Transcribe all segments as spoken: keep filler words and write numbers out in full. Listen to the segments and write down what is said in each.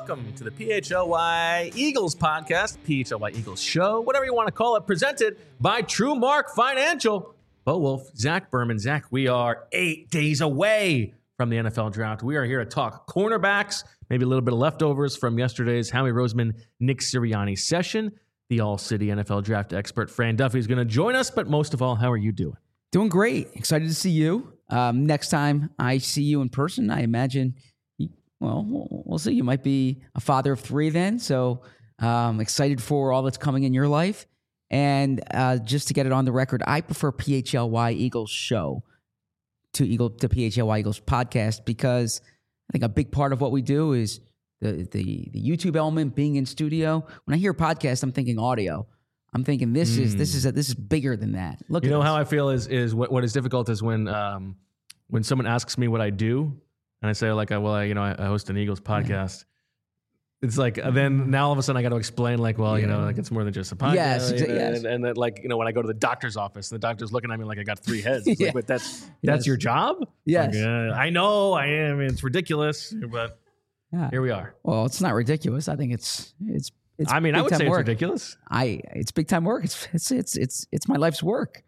welcome to the P H L Y Eagles podcast, P H L Y Eagles show, whatever you want to call it, presented by TrueMark Financial. Bo Wolf, Zach Berman. Zach, we are eight days away from the N F L draft. We are here to talk cornerbacks, maybe a little bit of leftovers from yesterday's Howie Roseman, Nick Sirianni session. The All-City N F L draft expert, Fran Duffy, is going to join us, but most of all, how are you doing? Doing great. Excited to see you. Um, next time I see you in person, I imagine, you, well, we'll see. You might be a father of three then. So um, excited for all that's coming in your life. And uh, just to get it on the record, I prefer P H L Y Eagles show to Eagle to P H L Y Eagles podcast because I think a big part of what we do is the the the YouTube element, being in studio. When I hear podcast, I'm thinking audio. I'm thinking this mm. is this is a, this is bigger than that. Look, you at know this. how I feel is is what, what is difficult is when um, when someone asks me what I do, and I say like, well, I, you know, I, I host an Eagles podcast. Yeah. It's like then now all of a sudden I got to explain like, well, yeah. you know, like it's more than just a podcast. Yes, you know, yes. And, and that like you know when I go to the doctor's office, and the doctor's looking at me like I got three heads. It's yeah. like, but that's that's yes. your job. Yes, like, uh, I know. I am. I mean, it's ridiculous, but yeah. here we are. Well, it's not ridiculous. I think it's it's. It's I mean, I would say work. It's ridiculous. I it's big time work. It's it's it's it's it's my life's work.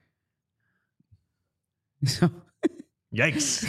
So. Yikes.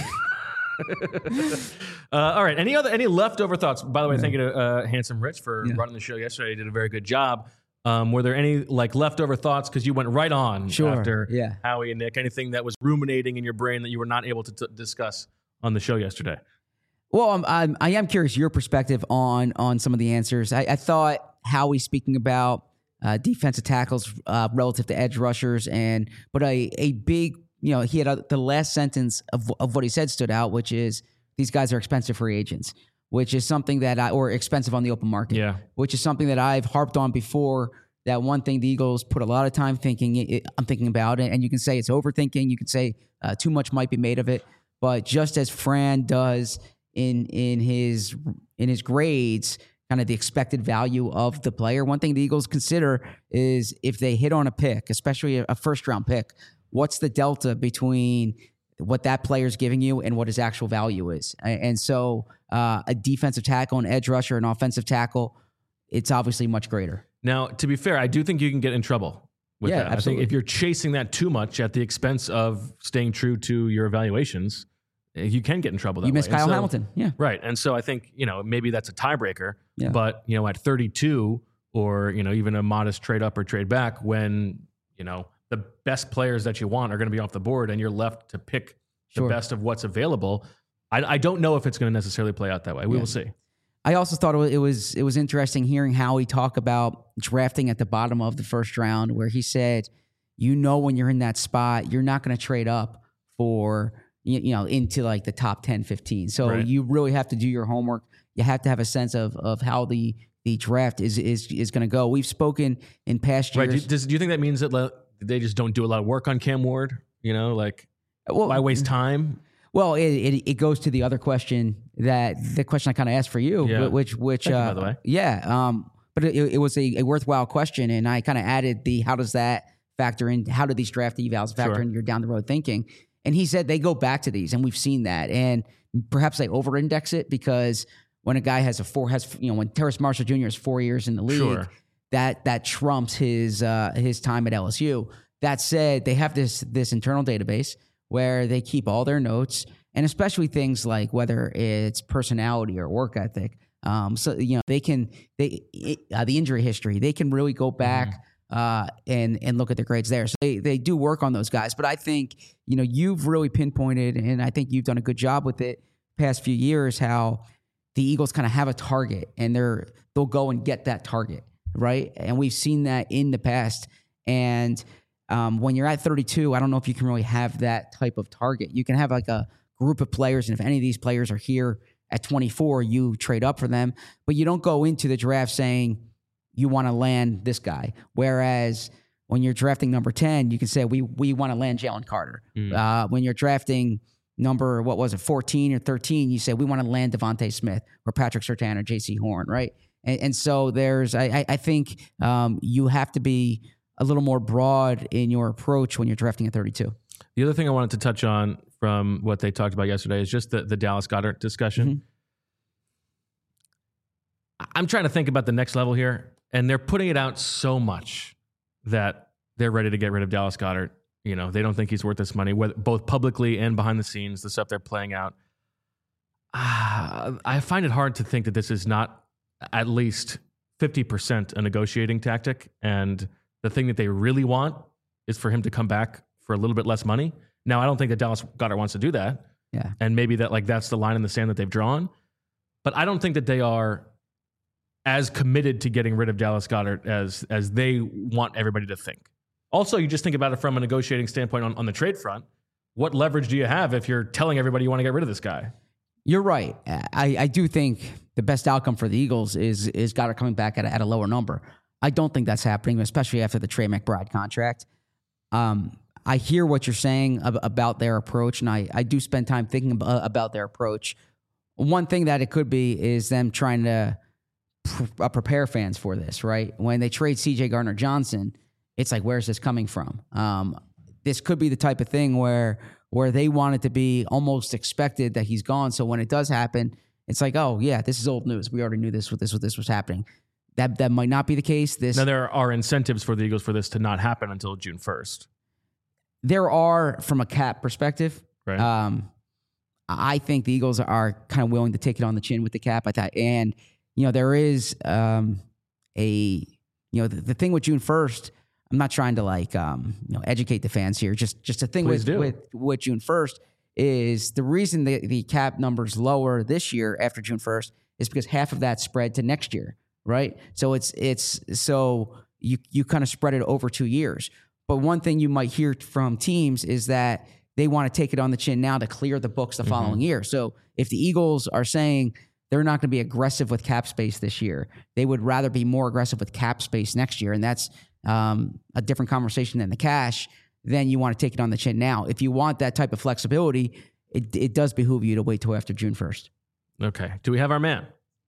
uh, all right. Any other any leftover thoughts? By the way, yeah. thank you to uh, Handsome Rich for yeah. running the show yesterday. You did a very good job. Um, were there any like leftover thoughts because you went right on sure. after yeah. Howie and Nick? Anything that was ruminating in your brain that you were not able to t- discuss on the show yesterday? Well, I'm, I'm I am curious your perspective on on some of the answers. I, I thought Howie speaking about uh, defensive tackles uh, relative to edge rushers, and but a a big you know he had a, the last sentence of of what he said stood out, which is these guys are expensive free agents, which is something that I or expensive on the open market, yeah, which is something that I've harped on before. That one thing the Eagles put a lot of time thinking. It, I'm thinking about it, and you can say it's overthinking. You can say uh, too much might be made of it, but just as Fran does in in his in his grades, kind of the expected value of the player. One thing the Eagles consider is if they hit on a pick, especially a first round pick, what's the delta between what that player's giving you and what his actual value is? And so uh, a defensive tackle, an edge rusher, an offensive tackle, it's obviously much greater. Now, to be fair, I do think you can get in trouble with yeah, that. Absolutely. I think if you're chasing that too much at the expense of staying true to your evaluations, you can get in trouble that you way. miss Kyle so, Hamilton. Yeah. Right. And so I think, you know, maybe that's a tiebreaker, yeah. but, you know, at thirty-two or, you know, even a modest trade up or trade back when, you know, the best players that you want are going to be off the board and you're left to pick sure. the best of what's available. I, I don't know if it's going to necessarily play out that way. We yeah. will see. I also thought it was, it was interesting hearing Howie talk about drafting at the bottom of the first round, where he said, you know, when you're in that spot, you're not going to trade up for, you know, into like the top ten, fifteen. So right. you really have to do your homework. You have to have a sense of of how the the draft is is is going to go. We've spoken in past years. Right. Do, does, do you think that means that they just don't do a lot of work on Cam Ward? You know, like well, why waste time? Well, it, it it goes to the other question that the question I kind of asked for you, yeah. which which Thank uh, you, by the way. yeah, um, but it, it was a, a worthwhile question, and I kind of added the how does that factor in? How do these draft evals factor sure. in your down the road thinking? And he said they go back to these, and we've seen that. And perhaps they over-index it because when a guy has a four, has you know, when Terrace Marshall Junior is four years in the league, sure. that that trumps his uh, his time at L S U. That said, they have this this internal database where they keep all their notes, and especially things like whether it's personality or work ethic. Um, so you know they can they uh, the injury history. They can really go back. Mm-hmm. Uh, and and look at their grades there. So they, they do work on those guys. But I think, you know, you've really pinpointed, and I think you've done a good job with it past few years, how the Eagles kind of have a target and they're they'll go and get that target, right? And we've seen that in the past. And um, when you're at thirty-two, I don't know if you can really have that type of target. You can have like a group of players, and if any of these players are here at twenty-four, you trade up for them. But you don't go into the draft saying, you want to land this guy. Whereas when you're drafting number ten, you can say, we we want to land Jalen Carter. Mm. Uh, when you're drafting number, what was it, fourteen or thirteen, you say, we want to land Devontae Smith or Patrick Surtain or J C Horn, right? And, and so there's, I, I think um, you have to be a little more broad in your approach when you're drafting at thirty-two. The other thing I wanted to touch on from what they talked about yesterday is just the, the Dallas Goedert discussion. Mm-hmm. I'm trying to think about the next level here, and they're putting it out so much that they're ready to get rid of Dallas Goedert. You know, they don't think he's worth this money, whether, both publicly and behind the scenes, the stuff they're playing out. Uh, I find it hard to think that this is not at least fifty percent a negotiating tactic, and the thing that they really want is for him to come back for a little bit less money. Now, I don't think that Dallas Goedert wants to do that. Yeah. And maybe that like that's the line in the sand that they've drawn. But I don't think that they are as committed to getting rid of Dallas Goedert as as they want everybody to think. Also, you just think about it from a negotiating standpoint on, on the trade front. What leverage do you have if you're telling everybody you want to get rid of this guy? You're right. I, I do think the best outcome for the Eagles is is Goedert coming back at a, at a lower number. I don't think that's happening, especially after the Trey McBride contract. Um, I hear what you're saying ab- about their approach, and I, I do spend time thinking ab- about their approach. One thing that it could be is them trying to pr- uh, prepare fans for this, right? When they trade C J Gardner-Johnson, it's like, where's this coming from? Um, this could be the type of thing where where they want it to be almost expected that he's gone. So when it does happen, it's like, oh, yeah, this is old news. We already knew this, this, this was happening. That that might not be the case. This Now, there are incentives for the Eagles for this to not happen until June first. There are, from a cap perspective. Right. Um, I think the Eagles are kind of willing to take it on the chin with the cap. I thought, and you know, there is um, a you know the, the thing with June first. I'm not trying to like um, you know educate the fans here. Just just a thing Please with, do. with with June first is the reason the, the cap number's lower this year after June first is because half of that spread to next year, right? So it's it's so you you kind of spread it over two years. But one thing you might hear from teams is that they want to take it on the chin now to clear the books the following mm-hmm. year. So if the Eagles are saying they're not going to be aggressive with cap space this year, they would rather be more aggressive with cap space next year. And that's um, a different conversation than the cash. Then you want to take it on the chin now. If you want that type of flexibility, it, it does behoove you to wait till after June first. Okay. Do we have our man?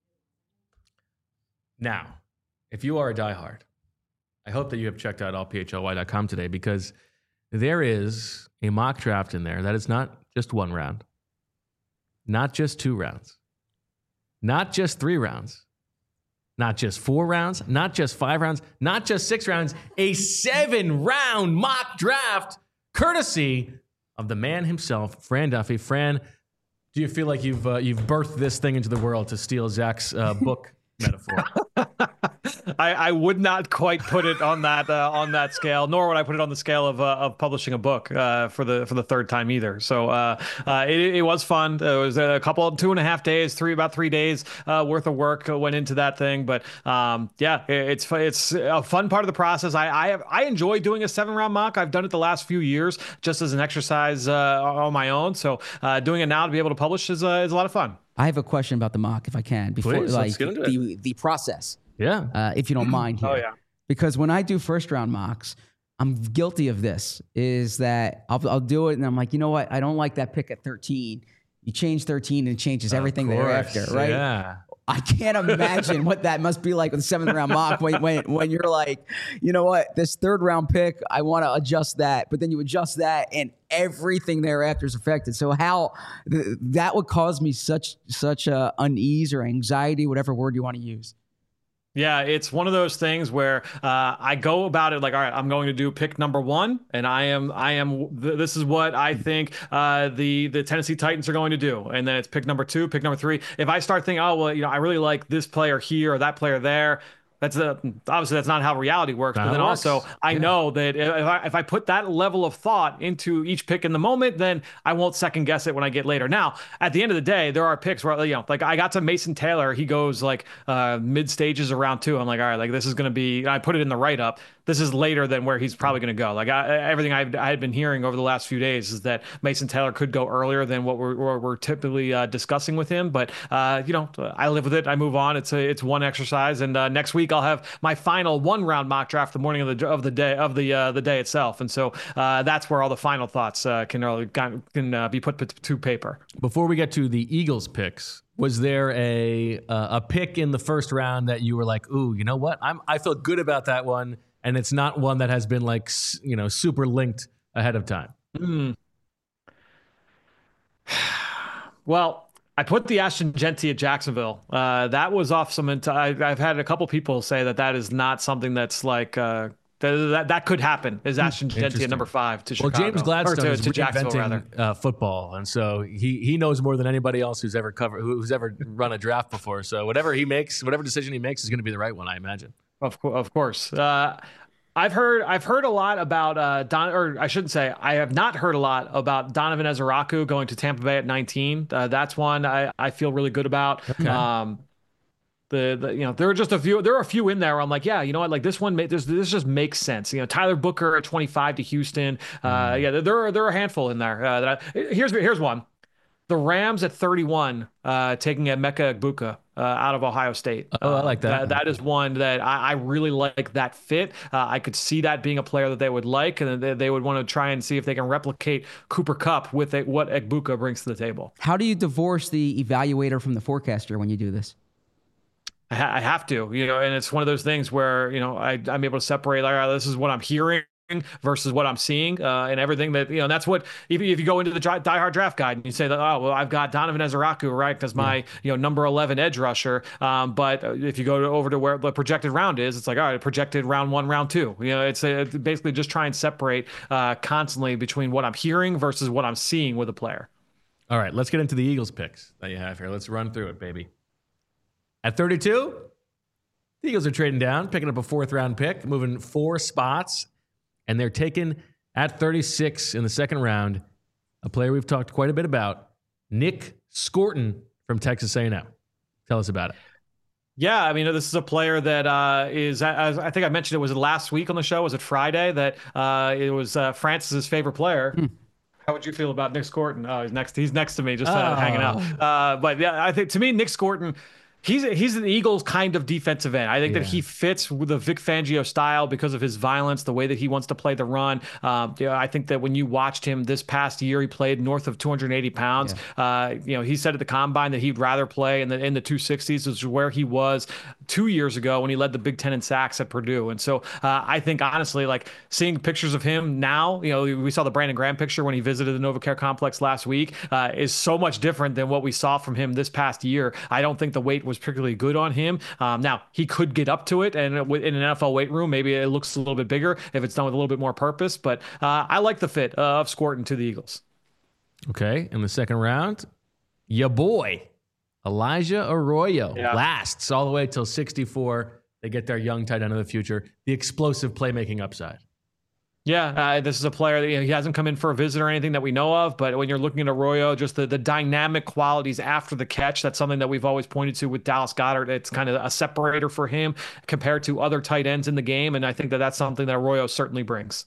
Now, if you are a diehard, I hope that you have checked out all P H L Y dot com today, because there is a mock draft in there that is not just one round, not just two rounds, not just three rounds, not just four rounds, not just five rounds, not just six rounds, a seven-round mock draft courtesy of the man himself, Fran Duffy. Fran, do you feel like you've uh, you've birthed this thing into the world, to steal Zach's uh, book metaphor? I, I would not quite put it on that uh, on that scale, nor would I put it on the scale of uh, of publishing a book uh, for the for the third time either. So uh, uh, it, it was fun. It was a couple, two and a half days, three about three days uh, worth of work went into that thing. But um, yeah, it, it's it's a fun part of the process. I I, have, I enjoy doing a seven round mock. I've done it the last few years just as an exercise uh, on my own. So uh, doing it now to be able to publish is uh, is a lot of fun. I have a question about the mock, if I can, before Please, like let's get into the it. the process. Yeah. Uh, if you don't mind here. Oh, yeah. Because when I do first round mocks, I'm guilty of this, is that I'll, I'll do it and I'm like, you know what? I don't like that pick at thirteen. You change thirteen and it changes everything thereafter, right? Yeah. I can't imagine what that must be like with the seventh round mock when, when, when you're like, you know what? This third round pick, I want to adjust that. But then you adjust that and everything thereafter is affected. So how th- that would cause me such, such uh, unease or anxiety, whatever word you want to use. Yeah, it's one of those things where uh, I go about it like, all right, I'm going to do pick number one, and I am, I am. Th- this is what I think uh, the the Tennessee Titans are going to do, and then it's pick number two, pick number three. If I start thinking, oh well, you know, I really like this player here or that player there. That's a, obviously that's not how reality works. That but then works. also I yeah. know that if I, if I put that level of thought into each pick in the moment, then I won't second guess it when I get later. Now, at the end of the day, there are picks where, you know, like I got to Mason Taylor. He goes like uh, mid stages of round two. I'm like, all right, like this is going to be, I put it in the write up. This is later than where he's probably going to go. Like I, everything I've, I had been hearing over the last few days is that Mason Taylor could go earlier than what we're, we're, we're typically uh, discussing with him. But, uh, you know, I live with it. I move on. It's a, it's one exercise. And uh, next week I'll have my final one round mock draft the morning of the of the day of the uh, the day itself, and so uh, that's where all the final thoughts uh, can uh, can uh, be put to paper. Before we get to the Eagles picks, was there a uh, a pick in the first round that you were like, ooh, you know what? I'm I feel good about that one, and it's not one that has been like you know super linked ahead of time? Mm. Well, I put the Ashton Genty at Jacksonville. Uh, that was off some. Int- I, I've had a couple people say that that is not something that's like uh, that, that that could happen. Is Ashton Genty at number five to Chicago? Well, James Gladstone or to, is to Jacksonville rather. reinventing uh, football, and so he he knows more than anybody else who's ever covered who's ever run a draft before. So whatever he makes, whatever decision he makes, is going to be the right one, I imagine. Of course, of course. Uh, I've heard I've heard a lot about uh, Don, or I shouldn't say I have not heard a lot about Donovan Ezeraku going to Tampa Bay at nineteen. Uh, that's one I, I feel really good about. Okay. Um, the, the you know there are just a few there are a few in there where I'm like, yeah, you know what, like this one this this just makes sense. You know, Tyler Booker at twenty-five to Houston. Uh, mm. Yeah, there are there are a handful in there. Uh, that I, here's here's one. The Rams at thirty-one, uh, taking Emeka Egbuka uh, out of Ohio State. Oh, I like that. Uh, that. That is one that I, I really like that fit. Uh, I could see that being a player that they would like, and they, they would want to try and see if they can replicate Cooper Kupp with a, what Egbuka brings to the table. How do you divorce the evaluator from the forecaster when you do this? I, ha- I have to, you know, and it's one of those things where, you know, I, I'm able to separate, like, oh, this is what I'm hearing versus what I'm seeing, uh, and everything that, you know, that's what, if, if you go into the Die Hard Draft Guide and you say that, oh, well, I've got Donovan Ezeraku, right, because my, yeah. you know, number eleven edge rusher. Um, but if you go to, over to where the projected round is, it's like, all right, projected round one, round two. You know, it's, a, it's basically just try and separate uh, constantly between what I'm hearing versus what I'm seeing with a player. All right, let's get into the Eagles picks that you have here. Let's run through it, baby. At thirty-two, the Eagles are trading down, picking up a fourth round pick, moving four spots. And they're taken at thirty-six in the second round, a player we've talked quite a bit about, Nick Scorton from Texas A and M. Tell us about it. Yeah, I mean, this is a player that uh, is, as I think I mentioned, it was last week on the show. Was it Friday that uh, it was uh, Francis's favorite player? Hmm. How would you feel about Nick Scorton? Oh, he's next. He's next to me, just uh, oh. hanging out. Uh, but yeah, I think to me, Nick Scorton. He's he's an Eagles kind of defensive end. I think yeah. that he fits with the Vic Fangio style because of his violence, the way that he wants to play the run. Um, you know, I think that when you watched him this past year, he played north of two hundred eighty pounds. Yeah. Uh, you know, he said at the combine that he'd rather play in the in the two sixties, which is where he was two years ago when he led the Big Ten in sacks at Purdue. And so uh, I think honestly, like seeing pictures of him now, you know, we saw the Brandon Graham picture when he visited the NovaCare complex last week, uh, is so much different than what we saw from him this past year. I don't think the weight was particularly good on him. Um, now he could get up to it, and in an N F L weight room, maybe it looks a little bit bigger if it's done with a little bit more purpose. But uh, I like the fit uh, of Scorton to the Eagles. Okay, in the second round, ya boy Elijah Arroyo yeah. lasts all the way till sixty-four. They get their young tight end of the future, the explosive playmaking upside. Yeah, uh, this is a player that, you know, he hasn't come in for a visit or anything that we know of, but when you're looking at Arroyo, just the, the dynamic qualities after the catch, that's something that we've always pointed to with Dallas Goedert. It's kind of a separator for him compared to other tight ends in the game, and I think that that's something that Arroyo certainly brings.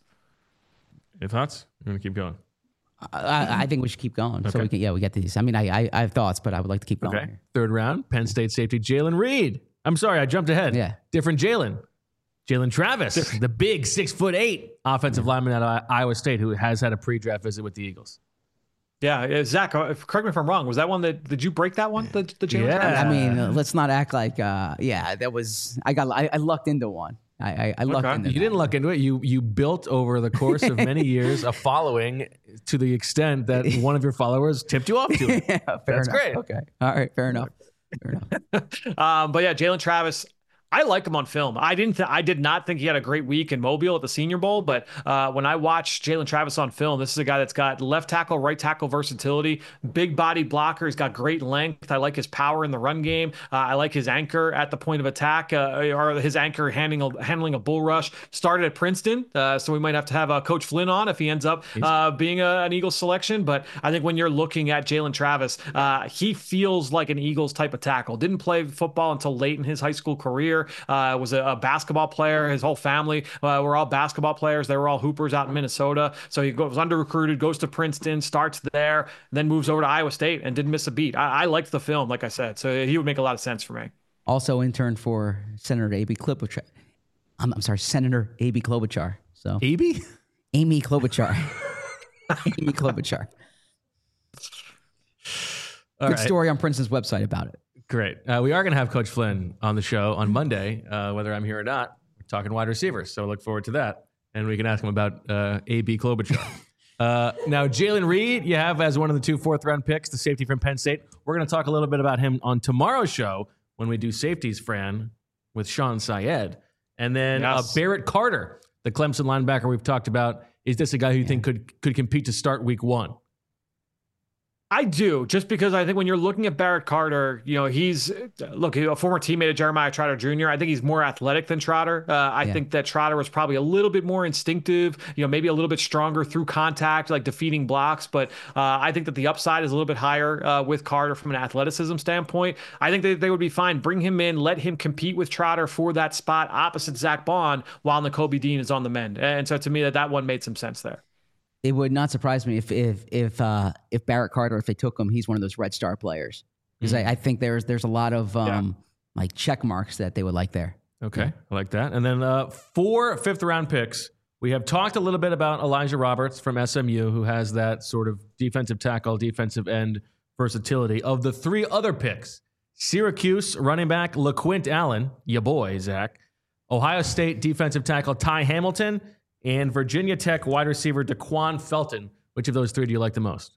Any thoughts? I'm going to keep going. I, I think we should keep going. Okay. So we can, yeah, we get these. I mean, I, I I have thoughts, but I would like to keep going. Okay. Here. Third round, Penn State safety Jalen Reed. I'm sorry, I jumped ahead. Yeah. Different Jalen. Jalen Travis, the big six foot eight offensive yeah. lineman at Iowa State, who has had a pre-draft visit with the Eagles. Yeah, Zach, correct me if I'm wrong. Was that one that did you break that one? The, the Jalen yeah. Travis? I mean, uh, let's not act like uh, yeah, that was I got I, I lucked into one. I I, I lucked okay. into. You that. didn't luck into it. You you built over the course of many years a following to the extent that one of your followers tipped you off to it. yeah, fair That's enough. great. Okay, all right, fair enough. Fair enough. um, but yeah, Jalen Travis. I like him on film. I didn't. Th- I did not think he had a great week in Mobile at the Senior Bowl, but uh, when I watched Jalen Travis on film, this is a guy that's got left tackle, right tackle versatility, big body blocker. He's got great length. I like his power in the run game. Uh, I like his anchor at the point of attack, uh, or his anchor handling a, handling a bull rush. Started at Princeton, uh, so we might have to have uh, Coach Flynn on if he ends up uh, being a, an Eagles selection. But I think when you're looking at Jalen Travis, uh, he feels like an Eagles type of tackle. Didn't play football until late in his high school career. Uh, was a, a basketball player. His whole family uh, were all basketball players. They were all hoopers out in Minnesota. So he goes under recruited, goes to Princeton, starts there, then moves over to Iowa State and didn't miss a beat. I, I liked the film, like I said. So he would make a lot of sense for me. Also interned for Senator A B Klobuchar. I'm, I'm sorry, Senator A B Klobuchar. So A B? Amy Klobuchar. Amy Klobuchar. All Good right. story on Princeton's website about it. Great. Uh, we are going to have Coach Flynn on the show on Monday, uh, whether I'm here or not. We're talking wide receivers, so I look forward to that. And we can ask him about uh, A B Klobuchar. Uh, now, Jalen Reed, you have as one of the two fourth round picks, the safety from Penn State. We're going to talk a little bit about him on tomorrow's show when we do safeties, Fran, with Sean Syed. And then yes. uh, Barrett Carter, the Clemson linebacker we've talked about. Is this a guy who you yeah. think could could compete to start week one? I do, just because I think when you're looking at Barrett Carter, you know, he's, look, a former teammate of Jeremiah Trotter Junior I think he's more athletic than Trotter. Uh, I yeah. think that Trotter was probably a little bit more instinctive, you know, maybe a little bit stronger through contact, like defeating blocks. But uh, I think that the upside is a little bit higher uh, with Carter from an athleticism standpoint. I think that they would be fine. Bring him in, let him compete with Trotter for that spot opposite Zach Bond while Nakobe Dean is on the mend. And so to me, that that one made some sense there. It would not surprise me if if if uh, if Barrett Carter, if they took him, he's one of those Red Star players. Because mm-hmm. I, I think there's there's a lot of um, yeah. like check marks that they would like there. Okay, yeah. I like that. And then uh, four fifth round picks. We have talked a little bit about Elijah Roberts from S M U, who has that sort of defensive tackle, defensive end versatility. Of the three other picks, Syracuse running back LaQuint Allen, ya boy, Zach. Ohio State defensive tackle Ty Hamilton. And Virginia Tech wide receiver DeQuan Felton. Which of those three do you like the most?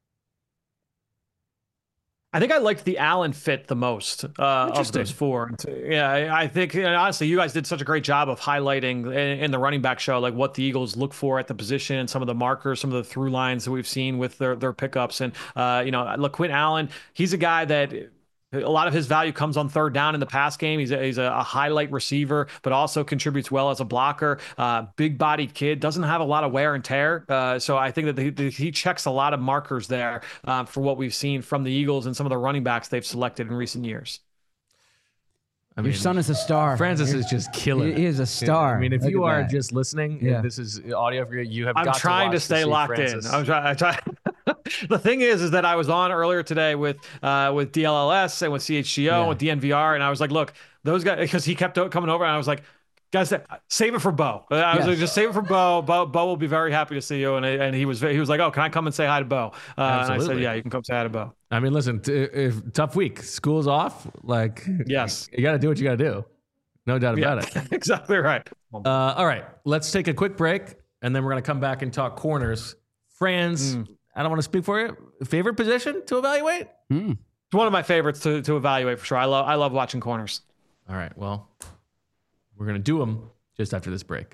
I think I liked the Allen fit the most uh, of those four. Yeah, I, I think and honestly, you guys did such a great job of highlighting in, in the running back show, like what the Eagles look for at the position, some of the markers, some of the through lines that we've seen with their their pickups. And uh, you know, LaQuint Allen, he's a guy that. A lot of his value comes on third down in the pass game. He's a, he's a highlight receiver, but also contributes well as a blocker. Uh, big-bodied kid, doesn't have a lot of wear and tear. Uh, so I think that the, the, he checks a lot of markers there uh, for what we've seen from the Eagles and some of the running backs they've selected in recent years. I mean, your son is a star. Francis You're, is just killing. He is a star. I mean, if Look you are that. just listening, yeah. and this is audio for you, you have I'm got trying to, to stay to locked Francis. in. I'm trying. I'm trying. The thing is, is that I was on earlier today with uh, with D L L S and with C H G O yeah. and with D N V R, and I was like, look, those guys, because he kept coming over, and I was like, guys, save it for Bo. I was yes. like, just save it for Bo. Bo. Bo will be very happy to see you. And and he was he was like, oh, can I come and say hi to Bo? Uh, and I said, yeah, you can come say hi to Bo. I mean, listen, t- if tough week, school's off. Like, yes, you got to do what you got to do. No doubt about yeah, it. Exactly right. Uh, all right, let's take a quick break, and then we're going to come back and talk corners. Franz, mm. I don't want to speak for you. Favorite position to evaluate? Mm. It's one of my favorites to, to evaluate for sure. I love I love watching corners. All right, well, we're going to do them just after this break.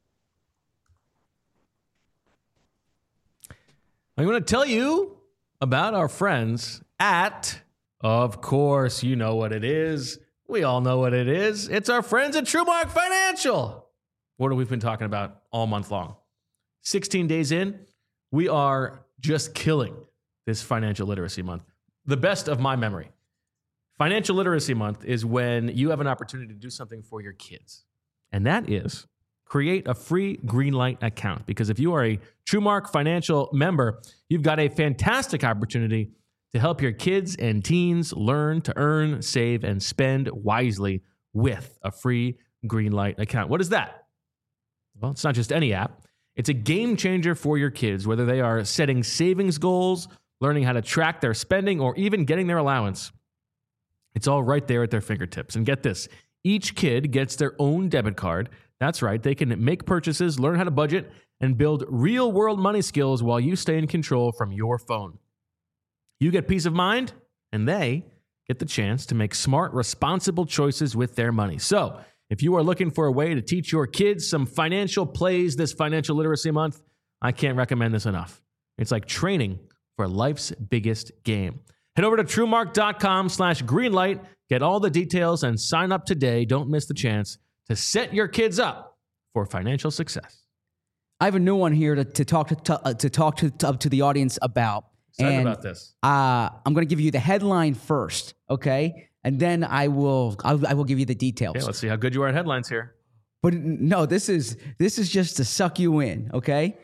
I'm going to tell you about our friends at, of course, you know what it is. We all know what it is. It's our friends at TrueMark Financial. What have we been talking about all month long? sixteen days in, we are just killing this financial literacy month. The best of my memory. Financial Literacy Month is when you have an opportunity to do something for your kids. And that is create a free Greenlight account. Because if you are a TrueMark Financial member, you've got a fantastic opportunity to help your kids and teens learn to earn, save, and spend wisely with a free Greenlight account. What is that? Well, it's not just any app. It's a game changer for your kids, whether they are setting savings goals, learning how to track their spending, or even getting their allowance. It's all right there at their fingertips. And get this, each kid gets their own debit card. That's right, they can make purchases, learn how to budget, and build real-world money skills while you stay in control from your phone. You get peace of mind, and they get the chance to make smart, responsible choices with their money. So, if you are looking for a way to teach your kids some financial plays this Financial Literacy Month, I can't recommend this enough. It's like training for life's biggest game. Head over to TrueMark.com slash Greenlight. Get all the details and sign up today. Don't miss the chance to set your kids up for financial success. I have a new one here to, to talk to, to, uh, to talk to, to, to the audience about. Excited and, about this. Uh, I'm going to give you the headline first, okay? And then I will I'll, I will give you the details. Okay, let's see how good you are at headlines here. But no, this is this is just to suck you in, okay?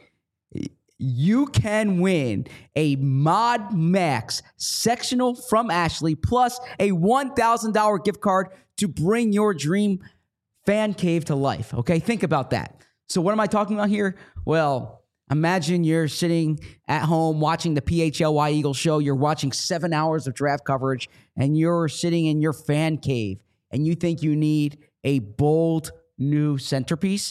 You can win a Mod Max sectional from Ashley plus a one thousand dollars gift card to bring your dream fan cave to life, okay? Think about that. So what am I talking about here? Well, imagine you're sitting at home watching the P H L Y Eagles show. You're watching seven hours of draft coverage, and you're sitting in your fan cave, and you think you need a bold new centerpiece.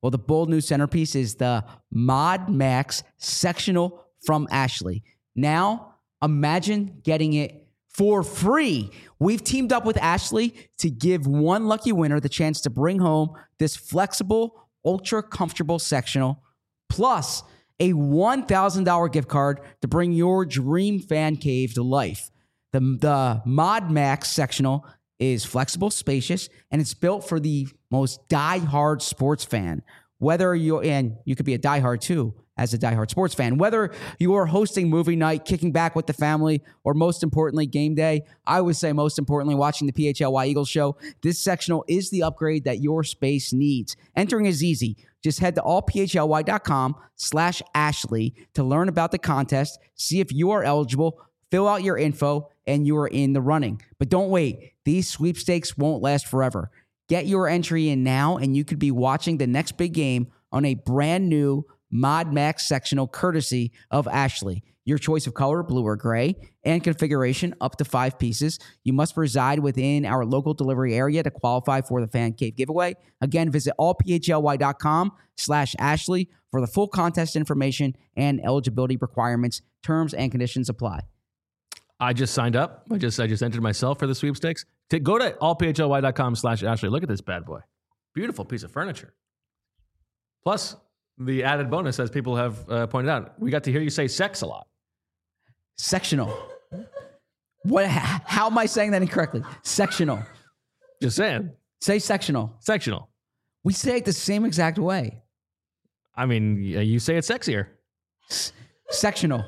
Well, the bold new centerpiece is the Mod Max sectional from Ashley. Now, imagine getting it for free. We've teamed up with Ashley to give one lucky winner the chance to bring home this flexible, ultra comfortable sectional, plus a one thousand dollars gift card to bring your dream fan cave to life. The, the Mod Max sectional is flexible, spacious, and it's built for the most diehard sports fan. Whether you're, and you could be a diehard too, as a diehard sports fan, whether you are hosting movie night, kicking back with the family, or most importantly, game day, I would say most importantly, watching the P H L Y Eagles show, this sectional is the upgrade that your space needs. Entering is easy. Just head to allphly.com slash Ashley to learn about the contest, see if you are eligible, fill out your info, and you are in the running. But don't wait. These sweepstakes won't last forever. Get your entry in now, and you could be watching the next big game on a brand new Mod Max sectional courtesy of Ashley. Your choice of color, blue or gray, and configuration up to five pieces. You must reside within our local delivery area to qualify for the Fan Cave giveaway. Again, visit allphly.com slash Ashley for the full contest information and eligibility requirements. Terms and conditions apply. I just signed up. I just I just entered myself for the sweepstakes. To go to allphly.com slash Ashley. Look at this bad boy. Beautiful piece of furniture. Plus, the added bonus, as people have uh, pointed out, we got to hear you say sex a lot. Sectional. What? How am I saying that incorrectly? Sectional. Just saying. Say sectional. Sectional. We say it the same exact way. I mean, you say it sexier. S- sectional.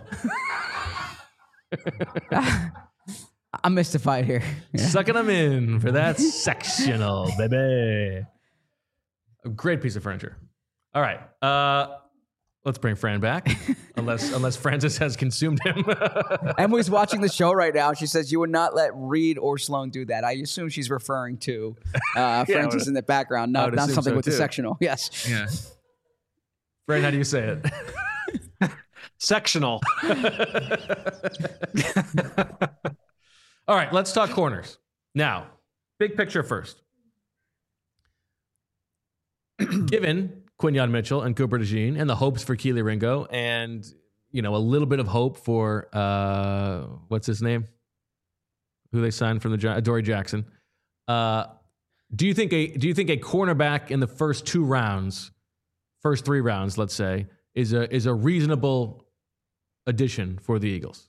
I'm mystified here. Yeah. Sucking them in for that sectional, baby. A great piece of furniture. All right. Uh, let's bring Fran back, unless unless Francis has consumed him. Emily's watching the show right now. She says you would not let Reed or Sloan do that. I assume she's referring to uh, Francis yeah, in the background, not, not something so with too. The sectional. Yes. Yeah. Fran, how do you say it? Sectional. All right, let's talk corners. Now, big picture first. Given Quinyon Mitchell and Cooper DeJean and the hopes for Kelee Ringo and, you know, a little bit of hope for, uh, what's his name? Who they signed from the Adoree Jackson. Uh, do you think a do you think a cornerback in the first two rounds, first three rounds, let's say, is a is a reasonable addition for the Eagles?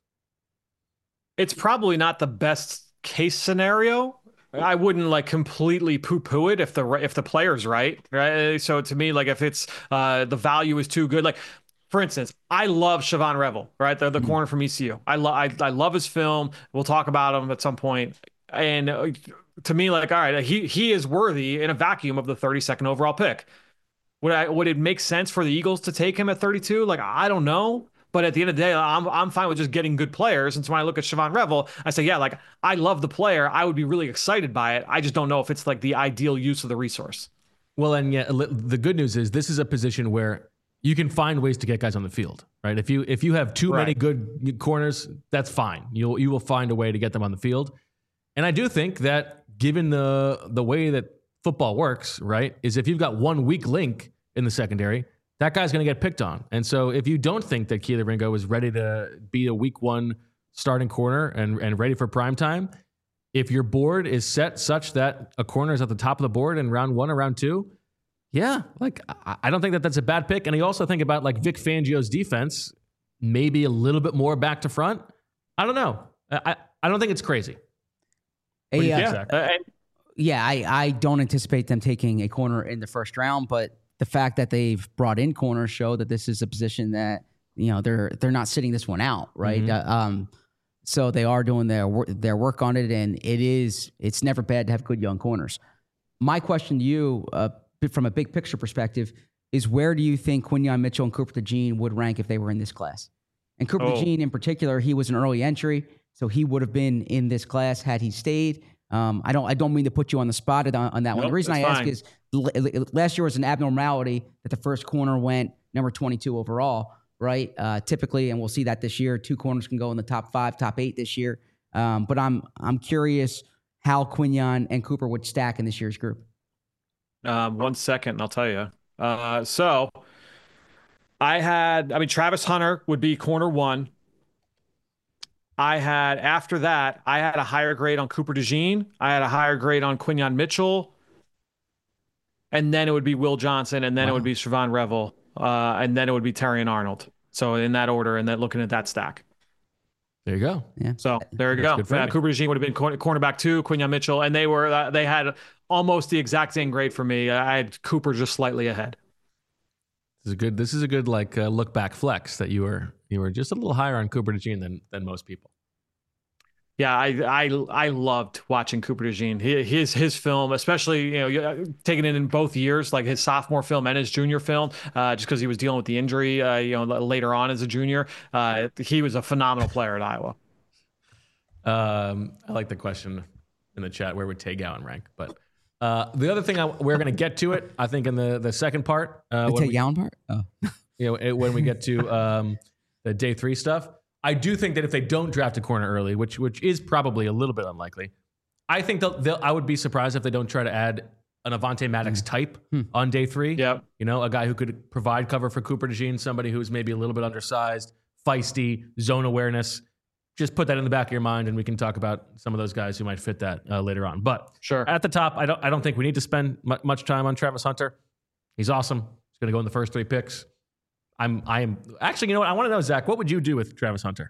It's probably not the best case scenario. I wouldn't like completely poo-poo it if the if the player's right, right? So to me, like if it's uh, the value is too good, like for instance, I love Siobhan Revel, right? The the mm-hmm. corner from E C U. I love I, I love his film. We'll talk about him at some point. And uh, to me, like all right, he he is worthy in a vacuum of the thirty-second overall pick. Would I would it make sense for the Eagles to take him at thirty-two? Like I don't know. But at the end of the day, I'm I'm fine with just getting good players. And so when I look at Siobhan Revel, I say, yeah, like I love the player. I would be really excited by it. I just don't know if it's like the ideal use of the resource. Well, and yet the good news is this is a position where you can find ways to get guys on the field, right? If you if you have too right. many good corners, that's fine. You'll you will find a way to get them on the field. And I do think that given the the way that football works, right, is if you've got one weak link in the secondary, that guy's going to get picked on. And so if you don't think that Kelee Ringo is ready to be a week one starting corner and, and ready for prime time, if your board is set such that a corner is at the top of the board in round one or round two, yeah, like I, I don't think that that's a bad pick. And I also think about like Vic Fangio's defense, maybe a little bit more back to front. I don't know. I, I don't think it's crazy. What do you think, Zach? Uh, yeah, I, I don't anticipate them taking a corner in the first round, but the fact that they've brought in corners show that this is a position that, you know, they're they're not sitting this one out, right? Mm-hmm. Uh, um, so they are doing their wor- their work on it, and it is it's never bad to have good young corners. My question to you, uh, from a big picture perspective, is where do you think Quinyon Mitchell and Cooper DeJean would rank if they were in this class? And Cooper oh. DeJean in particular, he was an early entry, so he would have been in this class had he stayed. Um, I don't I don't mean to put you on the spot on, on that nope, one. The reason I ask fine. is l- last year was an abnormality that the first corner went number twenty-two overall, right? Uh, typically, and we'll see that this year, two corners can go in the top five, top eight this year. Um, but I'm I'm curious how Quinyon and Cooper would stack in this year's group. Um, one second, and I'll tell you. Uh, so I had, I mean, Travis Hunter would be corner one. I had, after that, I had a higher grade on Cooper DeJean. I had a higher grade on Quinyon Mitchell. And then it would be Will Johnson. And then wow. it would be Siobhan Revel. Uh, and then it would be Terrion Arnold. So in that order, and then looking at that stack. There you go. Yeah. So there you That's go. Uh, Cooper DeJean would have been corner, cornerback two, Quinyon Mitchell. And they were, uh, they had almost the exact same grade for me. I had Cooper just slightly ahead. This is a good, this is a good like uh, look back flex that you were, you were just a little higher on Cooper DeJean than, than most people. Yeah, I I I loved watching Cooper DeJean. His his film, especially you know taking it in both years, like his sophomore film and his junior film, uh, just because he was dealing with the injury, uh, you know, later on as a junior. Uh, he was a phenomenal player at Iowa. Um, I like the question in the chat: where would Tay Gowan rank? But uh, the other thing I, we're going to get to it, I think, in the the second part. Uh, the Tay Gowan part. Oh, you know, it, when we get to um, the day three stuff. I do think that if they don't draft a corner early, which which is probably a little bit unlikely, I think they'll, they'll I would be surprised if they don't try to add an Avonte Maddox mm. type mm. on day three. Yeah, you know, a guy who could provide cover for Cooper DeJean, somebody who's maybe a little bit undersized, feisty, zone awareness. Just put that in the back of your mind, and we can talk about some of those guys who might fit that uh, later on. But sure, at the top, I don't I don't think we need to spend m- much time on Travis Hunter. He's awesome. He's going to go in the first three picks. I'm I am actually, you know what? I want to know, Zach, what would you do with Travis Hunter?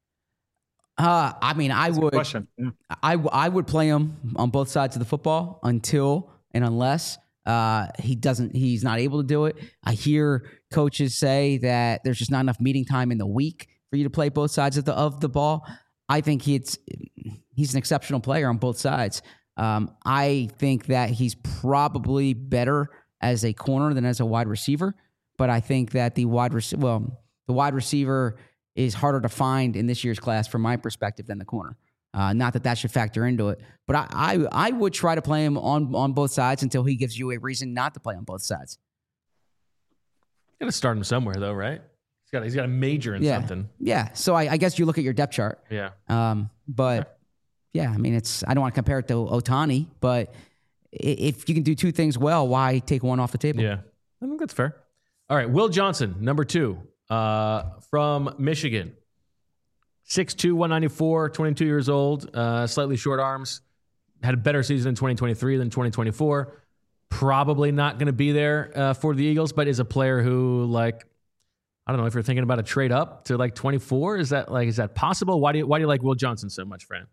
Uh, I mean, I That's would, yeah. I, I would play him on both sides of the football until and unless uh, he doesn't, he's not able to do it. I hear coaches say that there's just not enough meeting time in the week for you to play both sides of the of the ball. I think he's he's an exceptional player on both sides. Um, I think that he's probably better as a corner than as a wide receiver, but I think that the wide rec- well, the wide receiver is harder to find in this year's class from my perspective than the corner. Uh, not that that should factor into it, but I, I I would try to play him on, on both sides until he gives you a reason not to play on both sides. Got to start him somewhere though, right? He's got he's got to major in yeah. something. Yeah. So I, I guess you look at your depth chart. Yeah. Um. But yeah, I mean, it's I don't want to compare it to Ohtani, but if you can do two things well, why take one off the table? Yeah, I think that's fair. All right, Will Johnson, number two. Uh, from Michigan, six two, one ninety-four, twenty-two years old, uh, slightly short arms, had a better season in twenty twenty-three than twenty twenty-four. Probably not going to be there uh, for the Eagles, but is a player who, like, I don't know if you're thinking about a trade up to like twenty-four. Is that like is that possible? Why do you why do you like Will Johnson so much, Fran?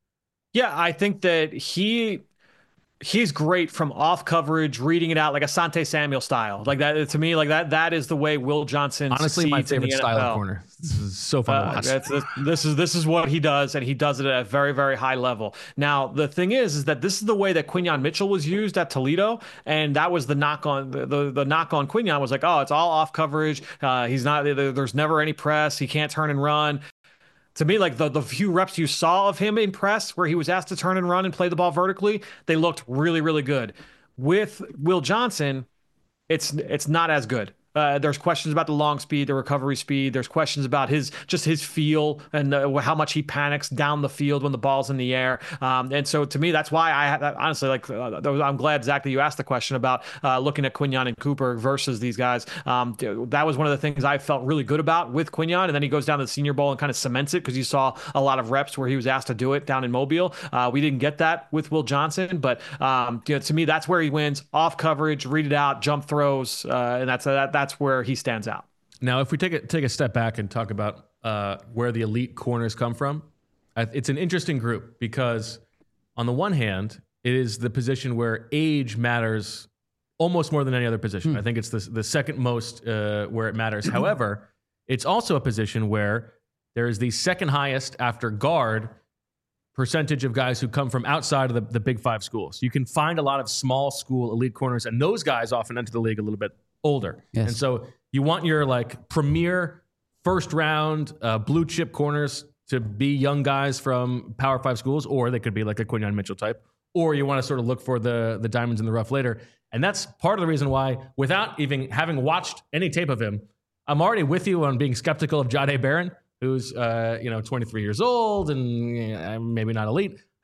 Yeah, I think that he. He's great from off coverage, reading it out like Asante Samuel style. Like that to me, like that that is the way Will Johnson honestly my favorite in the style N F L. of corner. This is so fun uh, to watch. That's, this, this is this is what he does, and he does it at a very very high level. Now the thing is, is that this is the way that Quinyon Mitchell was used at Toledo, and that was the knock on the the, the knock on Quinyon was like, oh, it's all off coverage. Uh, he's not there's never any press. He can't turn and run. To me, like the, the few reps you saw of him in press where he was asked to turn and run and play the ball vertically, they looked really, really good. With Will Johnson, it's it's not as good. Uh, there's questions about the long speed, the recovery speed. There's questions about his just his feel and uh, how much he panics down the field when the ball's in the air. Um, and so to me, that's why I honestly like. Uh, I'm glad, Zach, that you asked the question about uh, looking at Quinyon and Cooper versus these guys. Um, that was one of the things I felt really good about with Quinyon. And then he goes down to the Senior Bowl and kind of cements it because you saw a lot of reps where he was asked to do it down in Mobile. Uh, we didn't get that with Will Johnson, but um, you know, to me, that's where he wins: off coverage, read it out, jump throws, uh, and that's that, that's where he stands out. Now, if we take a, take a step back and talk about uh, where the elite corners come from, it's an interesting group because on the one hand, it is the position where age matters almost more than any other position. Hmm. I think it's the, the second most uh, where it matters. However, it's also a position where there is the second highest after guard percentage of guys who come from outside of the, the big five schools. You can find a lot of small school elite corners, and those guys often enter the league a little bit older. Yes. And so you want your like premier first round uh, blue chip corners to be young guys from Power Five schools, or they could be like a Quinyon Mitchell type, or you want to sort of look for the, the diamonds in the rough later. And that's part of the reason why, without even having watched any tape of him, I'm already with you on being skeptical of Jahdae Barron, who's uh, you know twenty-three years old and uh, maybe not elite.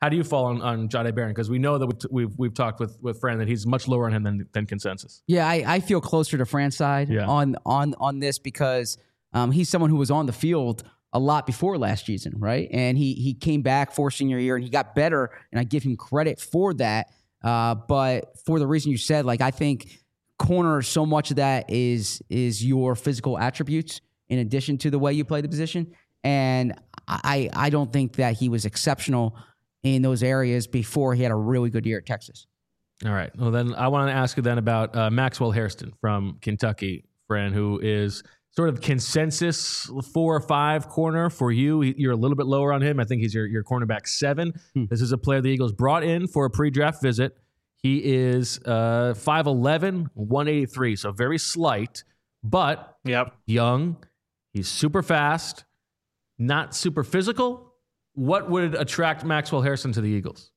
How do you fall on, on Jahdae Barron? Because we know that we've, we've we've talked with with Fran that he's much lower on him than than consensus. Yeah, I, I feel closer to Fran's side Yeah. on on on this because um, he's someone who was on the field a lot before last season, right? And he he came back for senior year and he got better, and I give him credit for that. Uh, but for the reason you said, like I think corner, so much of that is is your physical attributes in addition to the way you play the position. And I I don't think that he was exceptional in those areas before he had a really good year at Texas. All right. Well, then I want to ask you then about uh, Maxwell Hairston from Kentucky, Fran, who is sort of consensus four or five corner for you. You're a little bit lower on him. I think he's your, your cornerback seven. Hmm. This is a player the Eagles brought in for a pre-draft visit. He is uh, five eleven, one eighty-three, so very slight, but yep. young. He's super fast, not super physical. What would attract Maxwell Hairston to the Eagles?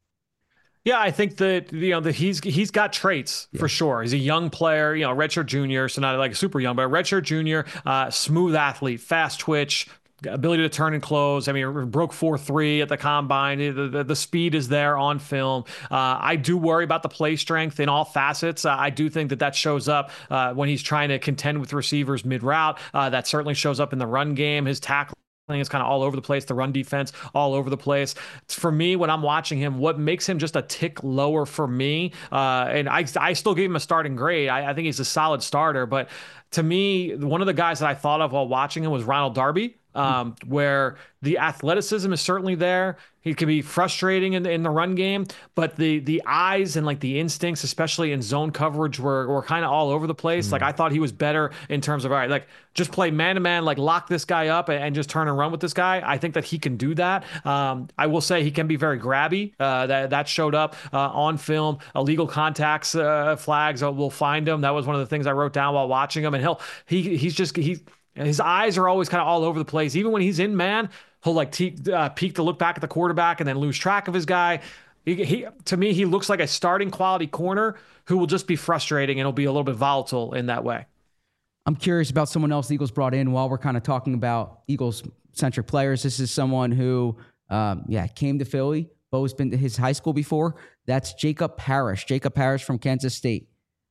Yeah, I think that you know that he's he's got traits yeah. for sure. He's a young player, you know, redshirt junior, so not like super young, but a redshirt junior, uh, smooth athlete, fast twitch, ability to turn and close. I mean, broke four three at the combine. The, the, the speed is there on film. Uh, I do worry about the play strength in all facets. Uh, I do think that that shows up uh, when he's trying to contend with receivers mid route. Uh, that certainly shows up in the run game. His tackle is kind of all over the place. The run defense all over the place. For me, when I'm watching him, what makes him just a tick lower for me, uh, and I, I still give him a starting grade. I, I think he's a solid starter, but to me, one of the guys that I thought of while watching him was Ronald Darby, um, where the athleticism is certainly there. He can be frustrating in the, in the run game, but the the eyes and like the instincts, especially in zone coverage, were were kind of all over the place. Mm. Like I thought he was better in terms of, all right, like just play man to man, like lock this guy up and, and just turn and run with this guy. I think that he can do that. Um, I will say he can be very grabby. Uh, that that showed up uh, on film. Illegal contacts uh, flags uh, will find him. That was one of the things I wrote down while watching him. And he'll he he's just he. His eyes are always kind of all over the place. Even when he's in man, he'll like te- uh, peek to look back at the quarterback and then lose track of his guy. He, he, to me, he looks like a starting quality corner who will just be frustrating and he'll be a little bit volatile in that way. I'm curious about someone else the Eagles brought in while we're kind of talking about Eagles-centric players. This is someone who, um, yeah, came to Philly. Bo's been to his high school before. That's Jacob Parrish. Jacob Parrish from Kansas State.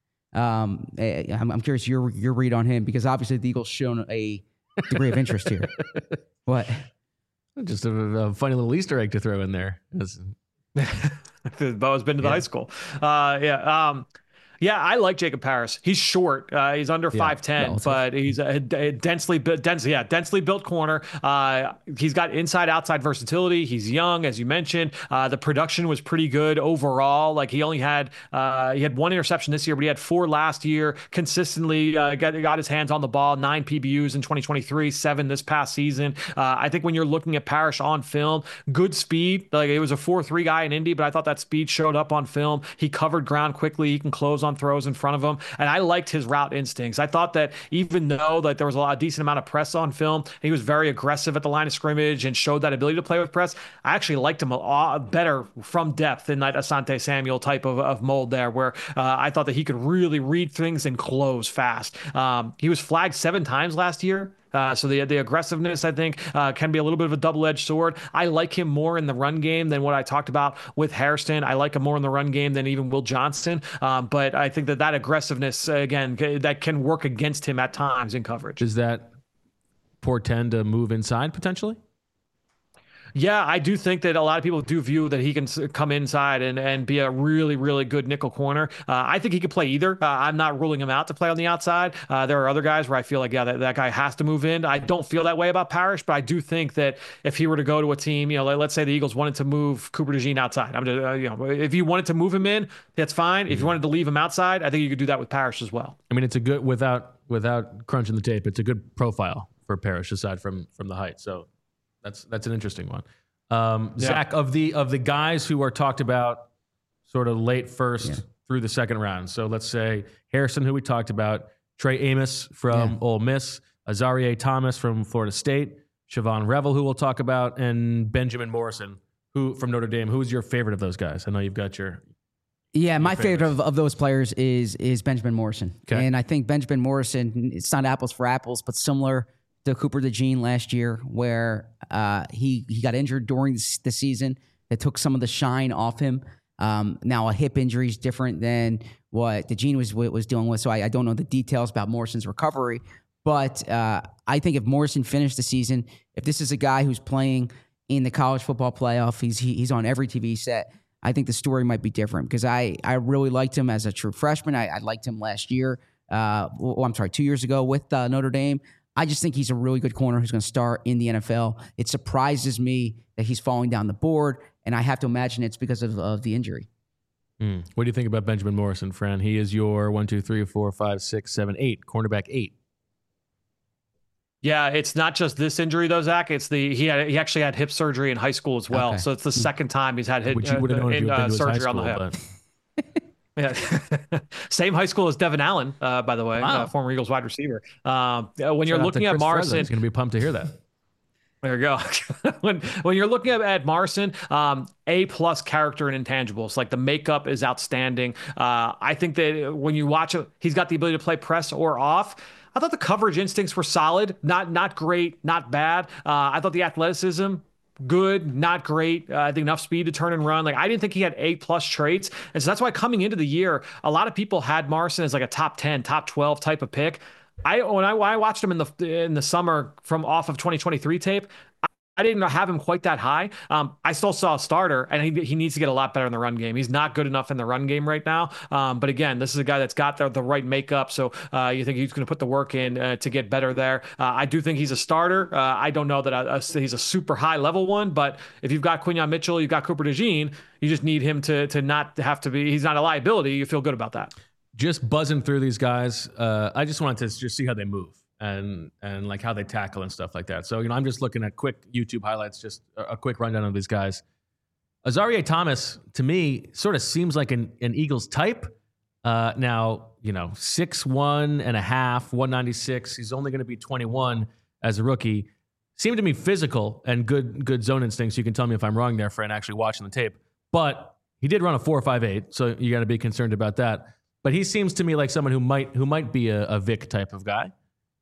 Um, I'm, I'm curious your your read on him because obviously the Eagles shown a degree of interest here. What? Just a, a funny little Easter egg to throw in there. Bo's been to the yeah. high school. Uh, yeah. Um, Yeah, I like Jacob Parrish. He's short. Uh, he's under yeah, five ten, but he's a, a densely built, dense, yeah, densely built corner. Uh, he's got inside-outside versatility. He's young, as you mentioned. Uh, the production was pretty good overall. Like he only had uh, he had one interception this year, but he had four last year. Consistently uh, got got his hands on the ball. Nine P B Us in twenty twenty-three, seven this past season. Uh, I think when you're looking at Parrish on film, good speed. Like it was a four three guy in Indy, but I thought that speed showed up on film. He covered ground quickly. He can close on throws in front of him, and I liked his route instincts. I thought that even though that there was a lot, a decent amount of press on film, he was very aggressive at the line of scrimmage and showed that ability to play with press. I actually liked him a lot better from depth than that Asante Samuel type of, of mold there, where uh, I thought that he could really read things and close fast. Um, he was flagged seven times last year. Uh, so the the aggressiveness, I think, uh, can be a little bit of a double-edged sword. I like him more in the run game than what I talked about with Hairston. I like him more in the run game than even Will Johnson. Um, but I think that that aggressiveness, uh, again, c- that can work against him at times in coverage. Does that portend a move inside potentially? Yeah, I do think that a lot of people do view that he can come inside and, and be a really, really good nickel corner. Uh, I think he could play either. Uh, I'm not ruling him out to play on the outside. Uh, there are other guys where I feel like, yeah, that, that guy has to move in. I don't feel that way about Parrish, but I do think that if he were to go to a team, you know, let, let's say the Eagles wanted to move Cooper DeJean outside. I'm just, uh, you know, if you wanted to move him in, that's fine. Mm-hmm. If you wanted to leave him outside, I think you could do that with Parrish as well. I mean, it's a good, without without crunching the tape, it's a good profile for Parrish aside from from the height. So that's that's an interesting one. Um, yeah. Zach, of the of the guys who are talked about sort of late first yeah. through the second round. So let's say Hairston, who we talked about, Trey Amos from yeah. Ole Miss, Azareye'h Thomas from Florida State, Siobhan Revel, who we'll talk about, and Benjamin Morrison, who from Notre Dame. Who's your favorite of those guys? I know you've got your Yeah, your my favorites. favorite of, of those players is is Benjamin Morrison. Okay. And I think Benjamin Morrison, it's not apples for apples, but similar to Cooper DeJean last year, where uh, he he got injured during the season, that took some of the shine off him. Um, now a hip injury is different than what DeJean was was dealing with, so I, I don't know the details about Morrison's recovery. But uh, I think if Morrison finished the season, if this is a guy who's playing in the college football playoff, he's he, he's on every T V set, I think the story might be different because I, I really liked him as a true freshman. I, I liked him last year. Uh, well, I'm sorry, two years ago with uh, Notre Dame. I just think he's a really good corner who's going to start in the N F L. It surprises me that he's falling down the board, and I have to imagine it's because of, of the injury. Mm. What do you think about Benjamin Morrison, Fran? He is your one, two, three, four, five, six, seven, eight, cornerback eight. Yeah, it's not just this injury though, Zach. It's the he had he actually had hip surgery in high school as well. Okay. So it's the second time he's had hip Which you would have known uh, if you in, had uh, been to his high surgery school, on the hip. but Yeah, same high school as Devin Allen, uh, by the way, Wow. uh, former Eagles wide receiver. Um, when you're shout out looking to at Chris Morrison, Frezza. He's going to be pumped to hear that. there you go. when when you're looking at, at Morrison, um, A plus character and intangibles, like the makeup is outstanding. Uh, I think that when you watch it, he's got the ability to play press or off. I thought the coverage instincts were solid, not not great, not bad. Uh, I thought the athleticism, good, not great. Uh, I think enough speed to turn and run. Like I didn't think he had A plus traits, and so that's why coming into the year, a lot of people had Morrison as like a top ten, top twelve type of pick. I when I, when I watched him in the in the summer from off of twenty twenty-three tape, I, I didn't have him quite that high. Um, I still saw a starter, and he he needs to get a lot better in the run game. He's not good enough in the run game right now. Um, but again, this is a guy that's got the, the right makeup. So uh, you think he's going to put the work in uh, to get better there? Uh, I do think he's a starter. Uh, I don't know that I, I, he's a super high level one, but if you've got Quinyon Mitchell, you've got Cooper DeJean, you just need him to to not have to be. He's not a liability. You feel good about that. Just buzzing through these guys. Uh, I just wanted to just see how they move and and like how they tackle and stuff like that. So, you know, I'm just looking at quick YouTube highlights, just a, a quick rundown of these guys. Azareye'h Thomas, to me, sort of seems like an, an Eagles type. Uh, now, you know, six one and a half, one ninety-six. He's only going to be twenty-one as a rookie. Seemed to me physical and good good zone instincts. You can tell me if I'm wrong there, Fran, actually watching the tape. But he did run a four five eight, so you got to be concerned about that. But he seems to me like someone who might who might be a, a Vic type of guy.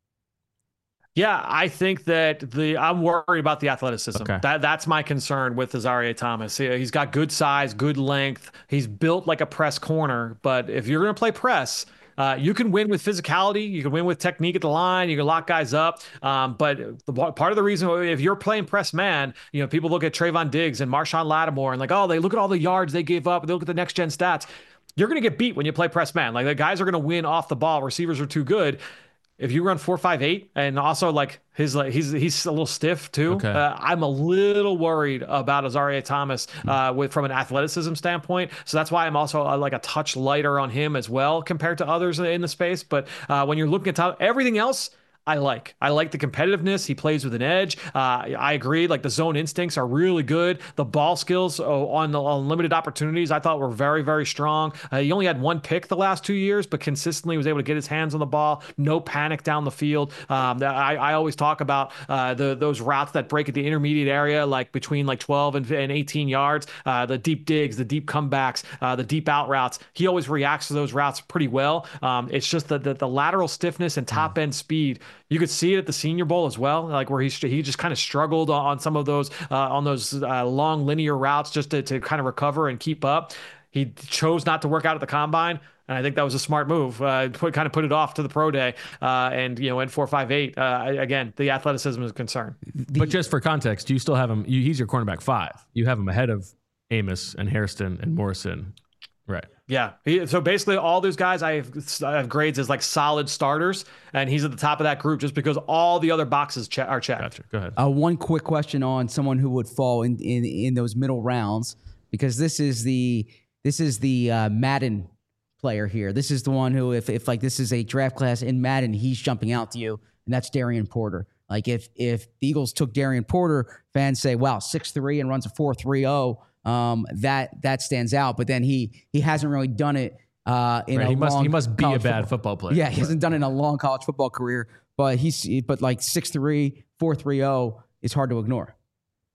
Yeah, I think that the I'm worried about the athleticism. Okay. That that's my concern with Azareye'h Thomas. He, he's got good size, good length. He's built like a press corner. But if you're going to play press, uh, you can win with physicality. You can win with technique at the line. You can lock guys up. Um, but the, part of the reason, if you're playing press man, you know, people look at Trayvon Diggs and Marshawn Lattimore and like, oh, they look at all the yards they gave up. They look at the next gen stats. You're going to get beat when you play press man. Like the guys are going to win off the ball. Receivers are too good. If you run four five eight and also like his like he's he's a little stiff too. Okay. Uh, I'm a little worried about Azareye'h Thomas uh, with from an athleticism standpoint. So that's why I'm also uh, like a touch lighter on him as well compared to others in the space. But uh, when you're looking at top, everything else, I like. I like the competitiveness. He plays with an edge. Uh, I agree. Like the zone instincts are really good. The ball skills oh, on the on limited opportunities, I thought were very, very strong. Uh, he only had one pick the last two years, but consistently was able to get his hands on the ball. No panic down the field. Um, I, I always talk about uh, the those routes that break at the intermediate area, like between like twelve and, and eighteen yards. Uh, the deep digs, the deep comebacks, uh, the deep out routes. He always reacts to those routes pretty well. Um, it's just the, the the lateral stiffness and top end speed. You could see it at the Senior Bowl as well, like where he he just kind of struggled on some of those uh, on those uh, long linear routes just to, to kind of recover and keep up. He chose not to work out at the combine, and I think that was a smart move. Uh, put kind of put it off to the pro day, uh, and you know, in four five eight. Uh, again, the athleticism is a concern. The, But just for context, you still have him. You, he's your cornerback five. You have him ahead of Amos and Hairston and Morrison, right? Yeah. He, so basically all those guys I have, I have grades as like solid starters, and he's at the top of that group just because all the other boxes che- are checked. Gotcha. Go ahead. Uh, one quick question on someone who would fall in, in, in those middle rounds, because this is the this is the uh, Madden player here. This is the one who, if if like this is a draft class in Madden, he's jumping out to you, and that's Darian Porter. Like if if the Eagles took Darian Porter, fans say, "Wow, six three and runs a four three zero." Um, that that stands out, but then he he hasn't really done it uh, in Right, a he must long he must be a college bad football. football player. Yeah, he hasn't done it in a long college football career, but he's but like six three, four three zero is hard to ignore.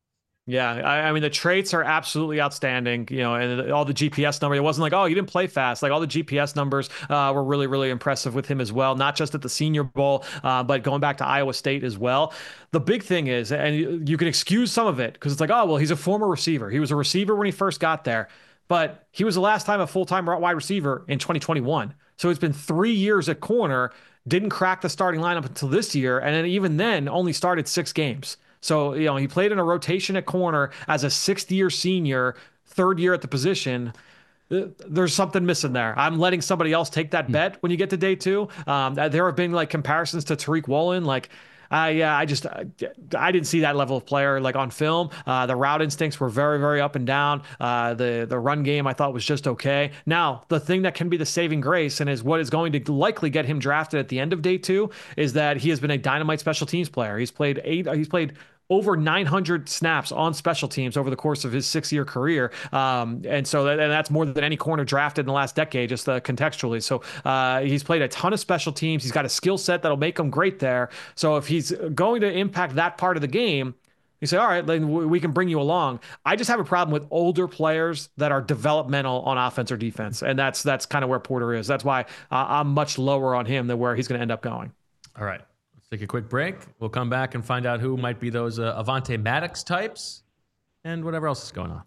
Yeah, I, I mean the traits are absolutely outstanding, you know, and all the G P S numbers. It wasn't like, oh, you didn't play fast. Like all the G P S numbers uh, were really, really impressive with him as well. Not just at the Senior Bowl, uh, but going back to Iowa State as well. The big thing is, and you, you can excuse some of it because it's like, oh, well, he's a former receiver. He was a receiver when he first got there, but he was the last time a full-time wide receiver in twenty twenty-one. So it's been three years at corner. Didn't crack the starting lineup until this year, and then even then only started six games. So, you know, he played in a rotation at corner as a sixth year senior, third year at the position. There's something missing there. I'm letting somebody else take that bet when you get to day two. Um, there have been like comparisons to Tariq Woolen. Like, I, yeah, I just, I, I didn't see that level of player like on film. Uh, the route instincts were very, very up and down. Uh, the, the run game I thought was just okay. Now, the thing that can be the saving grace and is what is going to likely get him drafted at the end of day two is that he has been a dynamite special teams player. He's played eight, he's played over nine hundred snaps on special teams over the course of his six-year career. Um, and so that, and that's more than any corner drafted in the last decade, just uh, contextually. So uh, he's played a ton of special teams. He's got a skill set that'll make him great there. So if he's going to impact that part of the game, you say, all right, then we can bring you along. I just have a problem with older players that are developmental on offense or defense. And that's that's kind of where Porter is. That's why uh, I'm much lower on him than where he's going to end up going. All right. Take a quick break. We'll come back and find out who might be those uh, Avonte Maddox types and whatever else is going on.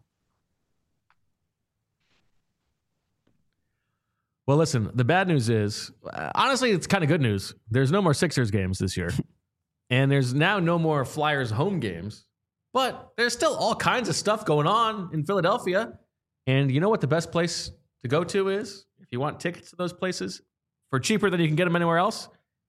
Well, listen, the bad news is, uh, honestly, it's kind of good news. There's no more Sixers games this year. And there's now no more Flyers home games. But there's still all kinds of stuff going on in Philadelphia. And you know what the best place to go to is? If you want tickets to those places for cheaper than you can get them anywhere else?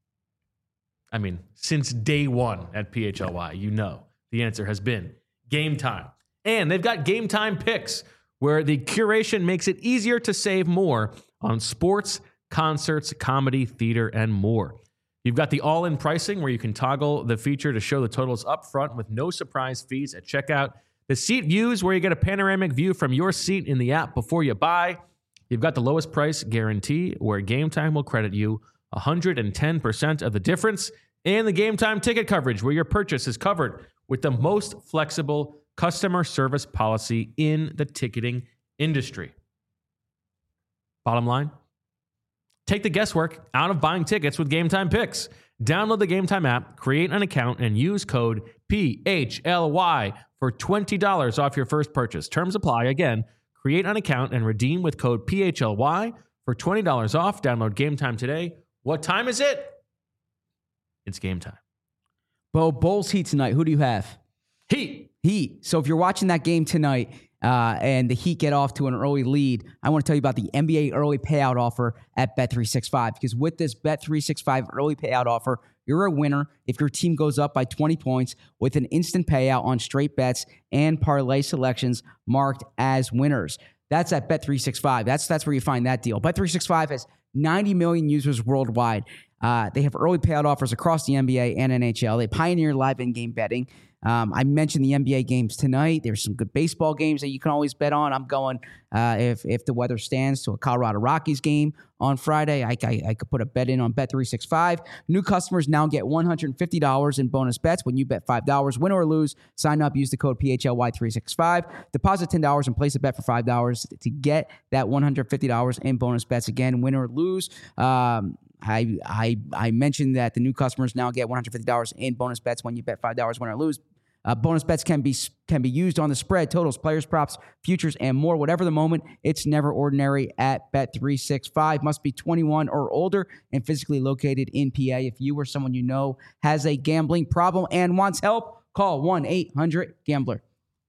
I mean, since day one at P H L Y, you know the answer has been Game Time. And they've got Game Time picks where the curation makes it easier to save more on sports, concerts, comedy, theater, and more. You've got the all-in pricing where you can toggle the feature to show the totals up front with no surprise fees at checkout. The seat views where you get a panoramic view from your seat in the app before you buy. You've got the lowest price guarantee where Game Time will credit you one hundred ten percent of the difference, and the Game Time ticket coverage where your purchase is covered with the most flexible customer service policy in the ticketing industry. Bottom line, take the guesswork out of buying tickets with Game Time Picks. Download the Game Time app, create an account, and use code P H L Y for twenty dollars off your first purchase. Terms apply. Again, create an account and redeem with code P H L Y for twenty dollars off. Download Game Time today. What time is it? It's game time. Bo, Bulls Heat tonight. Who do you have? Heat. Heat. So if you're watching that game tonight uh, and the Heat get off to an early lead, I want to tell you about the N B A early payout offer at Bet three sixty-five. Because with this Bet three sixty-five early payout offer, you're a winner if your team goes up by twenty points with an instant payout on straight bets and parlay selections marked as winners. That's at Bet three sixty-five. That's, that's where you find that deal. Bet three sixty-five has ninety million users worldwide. Uh, they have early payout offers across the N B A and N H L. They pioneer live in-game betting. Um, I mentioned the N B A games tonight. There's some good baseball games that you can always bet on. I'm going, uh, if if the weather stands, to a Colorado Rockies game on Friday. I, I, I could put a bet in on Bet three sixty-five. New customers now get one hundred fifty dollars in bonus bets when you bet five dollars. Win or lose, sign up, use the code P H L Y three sixty-five. Deposit ten dollars and place a bet for five dollars to get that one hundred fifty dollars in bonus bets. Again, win or lose. Um, I I I mentioned that the new customers now get one hundred fifty dollars in bonus bets when you bet five dollars, win or lose. Uh, bonus bets can be can be used on the spread, totals, players, props, futures, and more. Whatever the moment, it's never ordinary at Bet three sixty-five. Must be twenty-one or older and physically located in P A. If you or someone you know has a gambling problem and wants help, call one eight hundred gambler.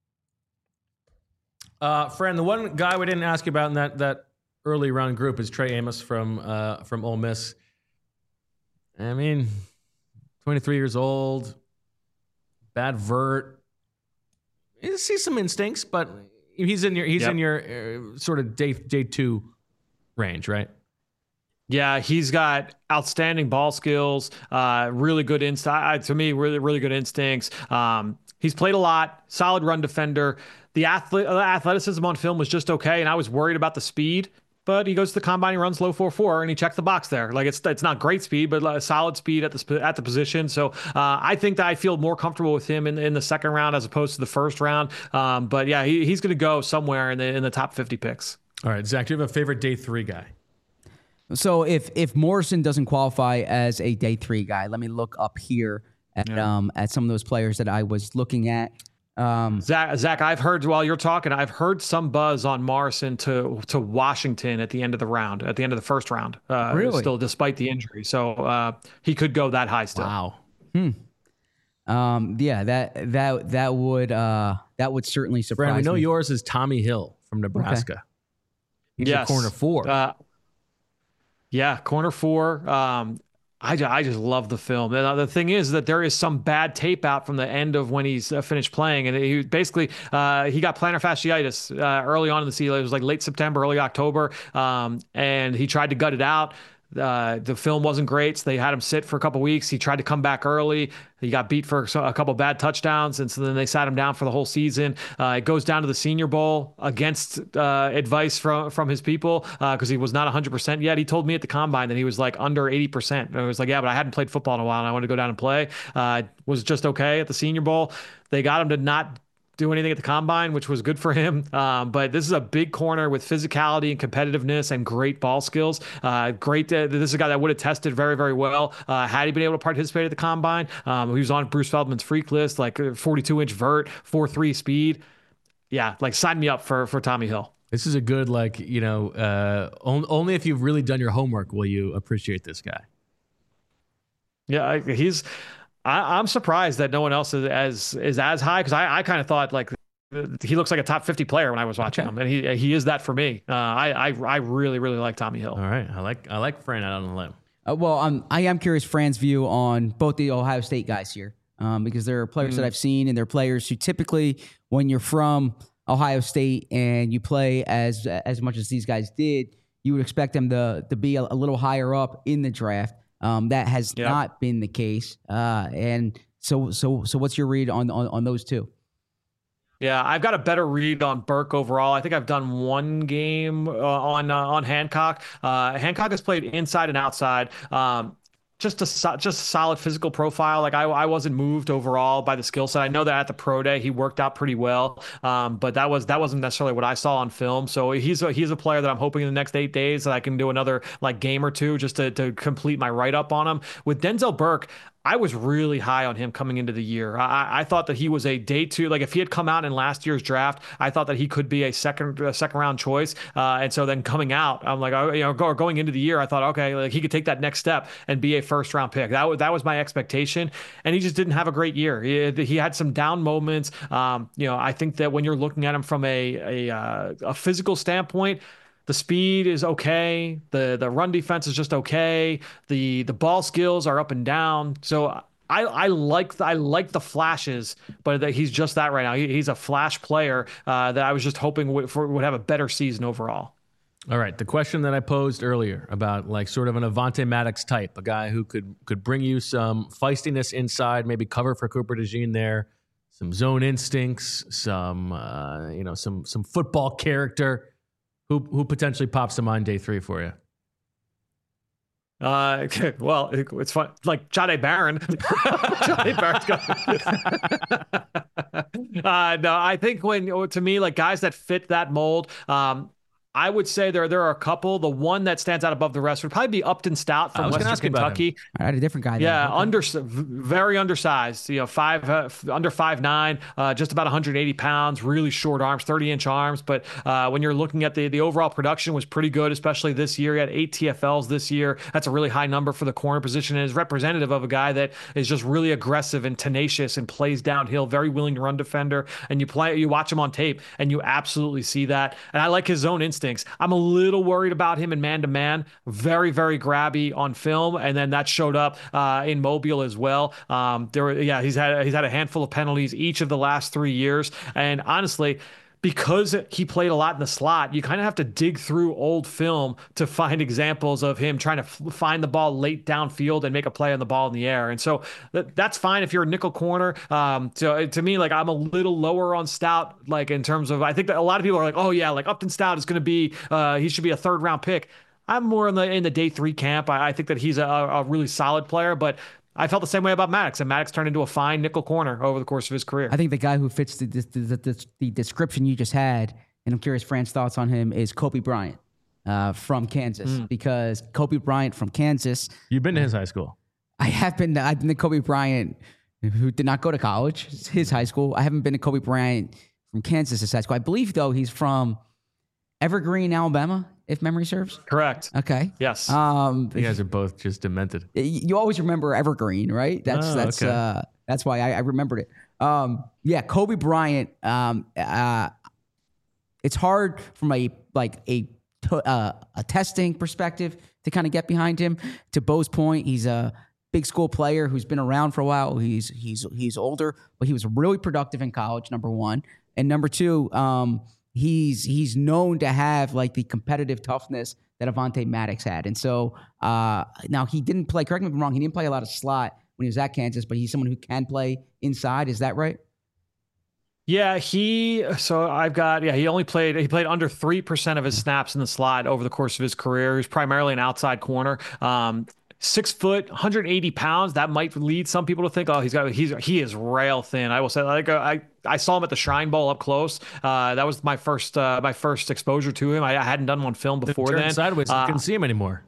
Uh, friend, the one guy we didn't ask you about in that that early round group is Trey Amos from uh, from Ole Miss. I mean, twenty-three years old, bad vert. You see some instincts, but he's in your he's yep. in your uh, sort of day day two range, right? Yeah, he's got outstanding ball skills, uh, really good instinct. To me, really really good instincts. Um, he's played a lot, solid run defender. The athlete, athleticism on film was just okay, and I was worried about the speed. but he goes to the combine, he runs low four four, and he checks the box there. Like it's it's not great speed, but a solid speed at the at the position. So uh, I think that I feel more comfortable with him in in the second round as opposed to the first round. Um, but yeah, he, he's going to go somewhere in the in the top fifty picks. All right, Zach, do you have a favorite day three guy? So if if Morrison doesn't qualify as a day three guy, let me look up here at Yeah. um at some of those players that I was looking at. Um, Zach, Zach, I've heard while you're talking, I've heard some buzz on Morrison to to Washington at the end of the round, at the end of the first round. Uh, Really? Still, despite the injury, so uh, he could go that high still. Wow. um, yeah, that that that would uh that would certainly surprise Brandon, we know me. yours is Tommy Hill from Nebraska. He's Yes. a corner four. Uh, yeah, corner four. Um, I, ju- I just love the film. And uh, the thing is that there is some bad tape out from the end of when he's uh, finished playing, and he basically uh, he got plantar fasciitis uh, early on in the season. It was like late September, early October, um, and he tried to gut it out. Uh, the film wasn't great, so they had him sit for a couple weeks. He tried to come back early. He got beat for a couple bad touchdowns, and so then they sat him down for the whole season. Uh, it goes down to the Senior Bowl against uh, advice from from his people because uh, he was not one hundred percent yet. He told me at the combine that he was like under eighty percent. And I was like, yeah, but I hadn't played football in a while, and I wanted to go down and play. Uh, was just okay at the Senior Bowl. They got him to not do anything at the combine, which was good for him. Um, but this is a big corner with physicality and competitiveness and great ball skills. Uh, great. To, this is a guy that would have tested very, very well uh, had he been able to participate at the combine. Um, he was on Bruce Feldman's freak list, like forty-two inch vert, four three speed. Yeah, like sign me up for for Tommy Hill. This is a good, like, you know, uh, on, only if you've really done your homework will you appreciate this guy. Yeah, I- he's. I, I'm surprised that no one else is as is as high because I, I kind of thought like he looks like a top fifty player when I was watching Okay. him, and he he is that for me. Uh, I, I I really really like Tommy Hill. All right. I like I like Fran out on the limb. Uh, well, um, I am curious Fran's view on both the Ohio State guys here, um, because there are players that I've seen, and they're players who typically, when you're from Ohio State and you play as as much as these guys did, you would expect them to to be a, a little higher up in the draft. Um, that has Yep. not been the case, uh, and so so so what's your read on on, on those two? Yeah, I've got a better read on Burke overall. I think I've done one game uh, on uh, on Hancock. Uh, Hancock has played inside and outside. Um, just a so- just a solid physical profile. Like I, I wasn't moved overall by the skill set. I know that at the pro day he worked out pretty well, um, but that was that wasn't necessarily what I saw on film. So he's a, he's a player that I'm hoping in the next eight days that I can do another like game or two just to to complete my write up on him. With Denzel Burke, I was really high on him coming into the year. I, I thought that he was a day two. Like if he had come out in last year's draft, I thought that he could be a second a second round choice. Uh, and so then coming out, I'm like, oh, you know, go, going into the year, I thought, okay, like he could take that next step and be a first round pick. That was that was my expectation, and he just didn't have a great year. He, he had some down moments. Um, you know, I think that when you're looking at him from a a, uh, a physical standpoint, the speed is okay. The the run defense is just okay. The the ball skills are up and down. So I I like I like the flashes, but that he's just that right now. He, he's a flash player uh, that I was just hoping would, for, would have a better season overall. All right. The question that I posed earlier about like sort of an Avante Maddox type, a guy who could could bring you some feistiness inside, maybe cover for Cooper DeJean there, some zone instincts, some uh, you know, some some football character. Who who potentially pops to mind day three for you? Uh, well, it, it's fun. Like Jahdae Barron. Jahdae Barron's got. uh, no, I think when to me, like guys that fit that mold. Um, I would say there there are a couple. The one that stands out above the rest would probably be Upton Stout I from was gonna Western ask you about Kentucky. I had a different guy. Yeah, there. Okay. under very undersized. You know, five uh, under five nine, uh, just about one hundred eighty pounds. Really short arms, thirty inch arms. But uh, when you're looking at the the overall production was pretty good, especially this year. He had eight T F Ls this year. That's a really high number for the corner position, and is representative of a guy that is just really aggressive and tenacious and plays downhill. Very willing to run defender. And you play, you watch him on tape, and you absolutely see that. And I like his zone instincts. I'm a little worried about him in man to man. Very very grabby on film, and then that showed up uh, in Mobile as well. Um, there, were, yeah, he's had he's had a handful of penalties each of the last three years, and honestly, because he played a lot in the slot, you kind of have to dig through old film to find examples of him trying to f- find the ball late downfield and make a play on the ball in the air. And so that, that's fine if you're a nickel corner. Um, so to me, like I'm a little lower on Stout, like in terms of, I think that a lot of people are like, oh yeah, like Upton Stout is going to be, uh, he should be a third round pick. I'm more in the in the day three camp. I, I think that he's a, a really solid player, but I felt the same way about Maddox, and Maddox turned into a fine nickel corner over the course of his career. I think the guy who fits the the, the, the, the description you just had, and I'm curious Fran's thoughts on him, is Kobe Bryant uh, from Kansas. Mm. Because Kobe Bryant from Kansas. You've been to his high school. I have been. I've been to Kobe Bryant, who did not go to college. It's his high school. I haven't been to Kobe Bryant from Kansas' his high school. I believe, though, he's from Evergreen, Alabama, if memory serves. Correct. Okay. Yes. Um, you guys are both just demented. You always remember Evergreen, right? That's oh, that's okay. uh, that's why I, I remembered it. Um, yeah, Kobe Bryant. Um, uh, it's hard from a like a uh, a testing perspective to kind of get behind him. To Bo's point, he's a big school player who's been around for a while. He's he's he's older, but he was really productive in college. Number one, and number two. Um, He's he's known to have like the competitive toughness that Avonte Maddox had. And so uh, now he didn't play, correct me if I'm wrong, he didn't play a lot of slot when he was at Kansas, but he's someone who can play inside. Is that right? Yeah, he, so I've got, yeah, he only played, he played under three percent of his snaps in the slot over the course of his career. He's primarily an outside corner. Um, Six foot, one hundred eighty pounds. That might lead some people to think, oh, he's got, he's, he is rail thin. I will say, like, I, I saw him at the Shrine Bowl up close. Uh, that was my first, uh, my first exposure to him. I, I hadn't done one film before then. Sideways, I uh, couldn't see him anymore.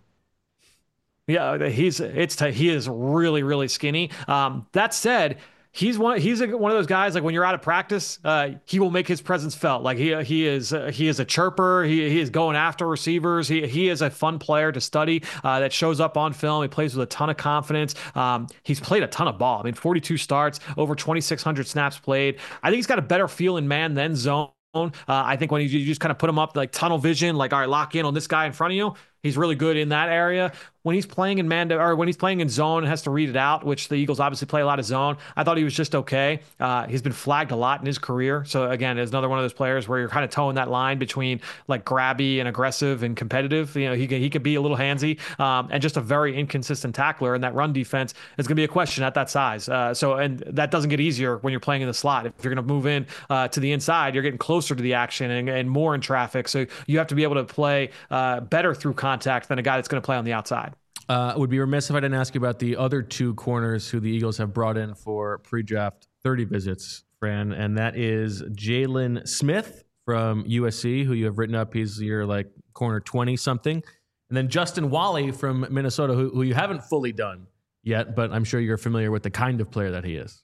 Yeah, he's, it's, t- he is really, really skinny. Um, that said, He's one. He's a, one of those guys. Like when you're out of practice, uh, he will make his presence felt. Like he he is uh, he is a chirper. He he is going after receivers. He he is a fun player to study. Uh, that shows up on film. He plays with a ton of confidence. Um, he's played a ton of ball. I mean, forty-two starts, over twenty-six hundred snaps played. I think he's got a better feel in man than zone. Uh, I think when you, you just kind of put him up like tunnel vision, like all right, lock in on this guy in front of you. He's really good in that area. When he's playing in man or when he's playing in zone and has to read it out, which the Eagles obviously play a lot of zone. I thought he was just okay. Uh, he's been flagged a lot in his career. So again, is another one of those players where you're kind of towing that line between like grabby and aggressive and competitive. You know, he could, he could be a little handsy um, and just a very inconsistent tackler. And that run defense is going to be a question at that size. Uh, so and that doesn't get easier when you're playing in the slot. If you're going to move in uh, to the inside, you're getting closer to the action and, and more in traffic. So you have to be able to play uh, better through contact than a guy that's going to play on the outside. Uh, I would be remiss if I didn't ask you about the other two corners who the Eagles have brought in for pre-draft thirty visits, Fran, and that is Jalen Smith from U S C, who you have written up. He's your like corner twenty something, and then Justin Wally from Minnesota, who, who you haven't fully done yet, but I'm sure you're familiar with the kind of player that he is.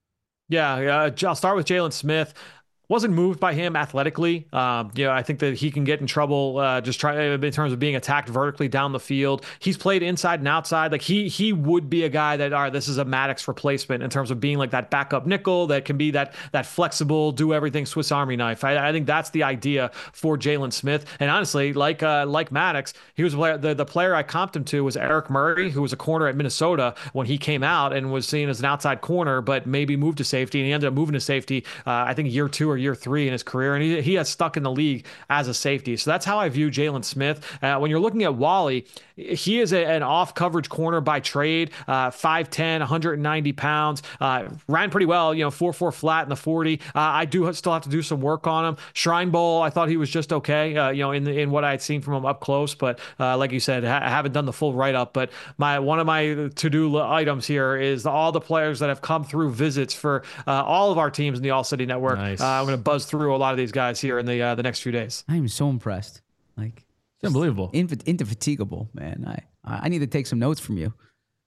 Yeah, uh, I'll start with Jalen Smith. Wasn't moved by him athletically. Um, you know, I think that he can get in trouble uh, just try in terms of being attacked vertically down the field. He's played inside and outside. Like he he would be a guy that, all right, this is a Maddox replacement in terms of being like that backup nickel that can be that that flexible, do everything Swiss Army knife. I, I think that's the idea for Jalen Smith. And honestly, like uh, like Maddox, he was a player, the the player I comped him to was Eric Murray, who was a corner at Minnesota when he came out and was seen as an outside corner, but maybe moved to safety, and he ended up moving to safety. Uh, I think year two or year three in his career, and he, he has stuck in the league as a safety. So that's how I view Jalen Smith. Uh, when you're looking at Wally, he is a, an off coverage corner by trade, uh, five ten, one hundred ninety pounds, uh, ran pretty well, you know, four four flat in the forty. Uh, I do still have to do some work on him. Shrine Bowl, I thought he was just okay, uh, you know, in the, in what I had seen from him up close, but uh, like you said, I haven't done the full write-up, but my one of my to-do items here is all the players that have come through visits for uh, all of our teams in the All City Network. Nice. Uh, I'm going to buzz through a lot of these guys here in the uh, the next few days. I am so impressed. Like, it's unbelievable. Inf- indefatigable, man. I I need to take some notes from you.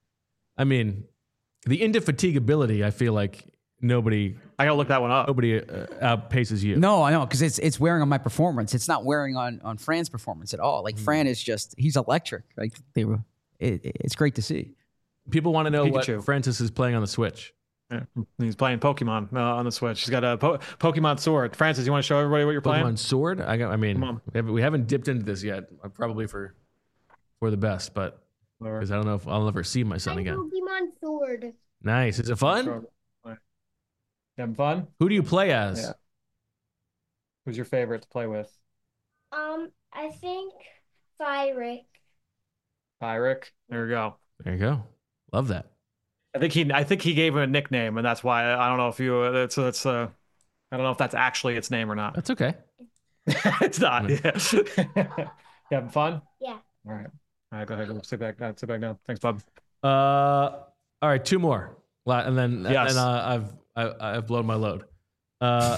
I mean, the indefatigability, I feel like nobody I gotta look that one up. nobody uh, outpaces you. No, I know, because it's it's wearing on my performance. It's not wearing on on Fran's performance at all. Like, Fran is just, he's electric. Like, they were, it, it's great to see. People want to know Pikachu. what Francis is playing on the Switch. Yeah. He's playing Pokemon uh, on the Switch. He's got a po- Pokemon Sword. Francis, you want to show everybody what you're playing? Pokemon Sword? I, got, I mean, Come on. we haven't, we haven't dipped into this yet. uh, Probably for for the best, but because I don't know if I'll ever see my son again. Pokemon Sword. Nice. Is it fun? You having fun? Who do you play as? Yeah. Who's your favorite to play with? Um, I think Fyrick. Pyrick. There you go. There you go. Love that. I think he I think he gave him a nickname, and that's why I don't know if you that's that's uh I don't know if that's actually its name or not. That's okay. It's not. Yeah. You having fun? Yeah. All right. All right. Go ahead. Go sit back. Uh, sit back down. Thanks, bub. Uh, all right, two more, La- and then Yes. and uh, I've I, I've blown my load. Uh,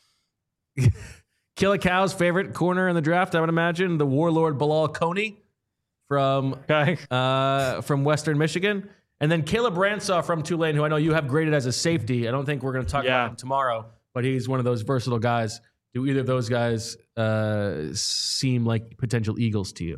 Killer Cow's favorite corner in the draft, I would imagine, the Warlord Bilal Coney from Okay. uh, from Western Michigan, and then Caleb Ransaw from Tulane, who I know you have graded as a safety. I don't think we're going to talk Yeah. about him tomorrow, but he's one of those versatile guys. Do either of those guys uh, seem like potential Eagles to you?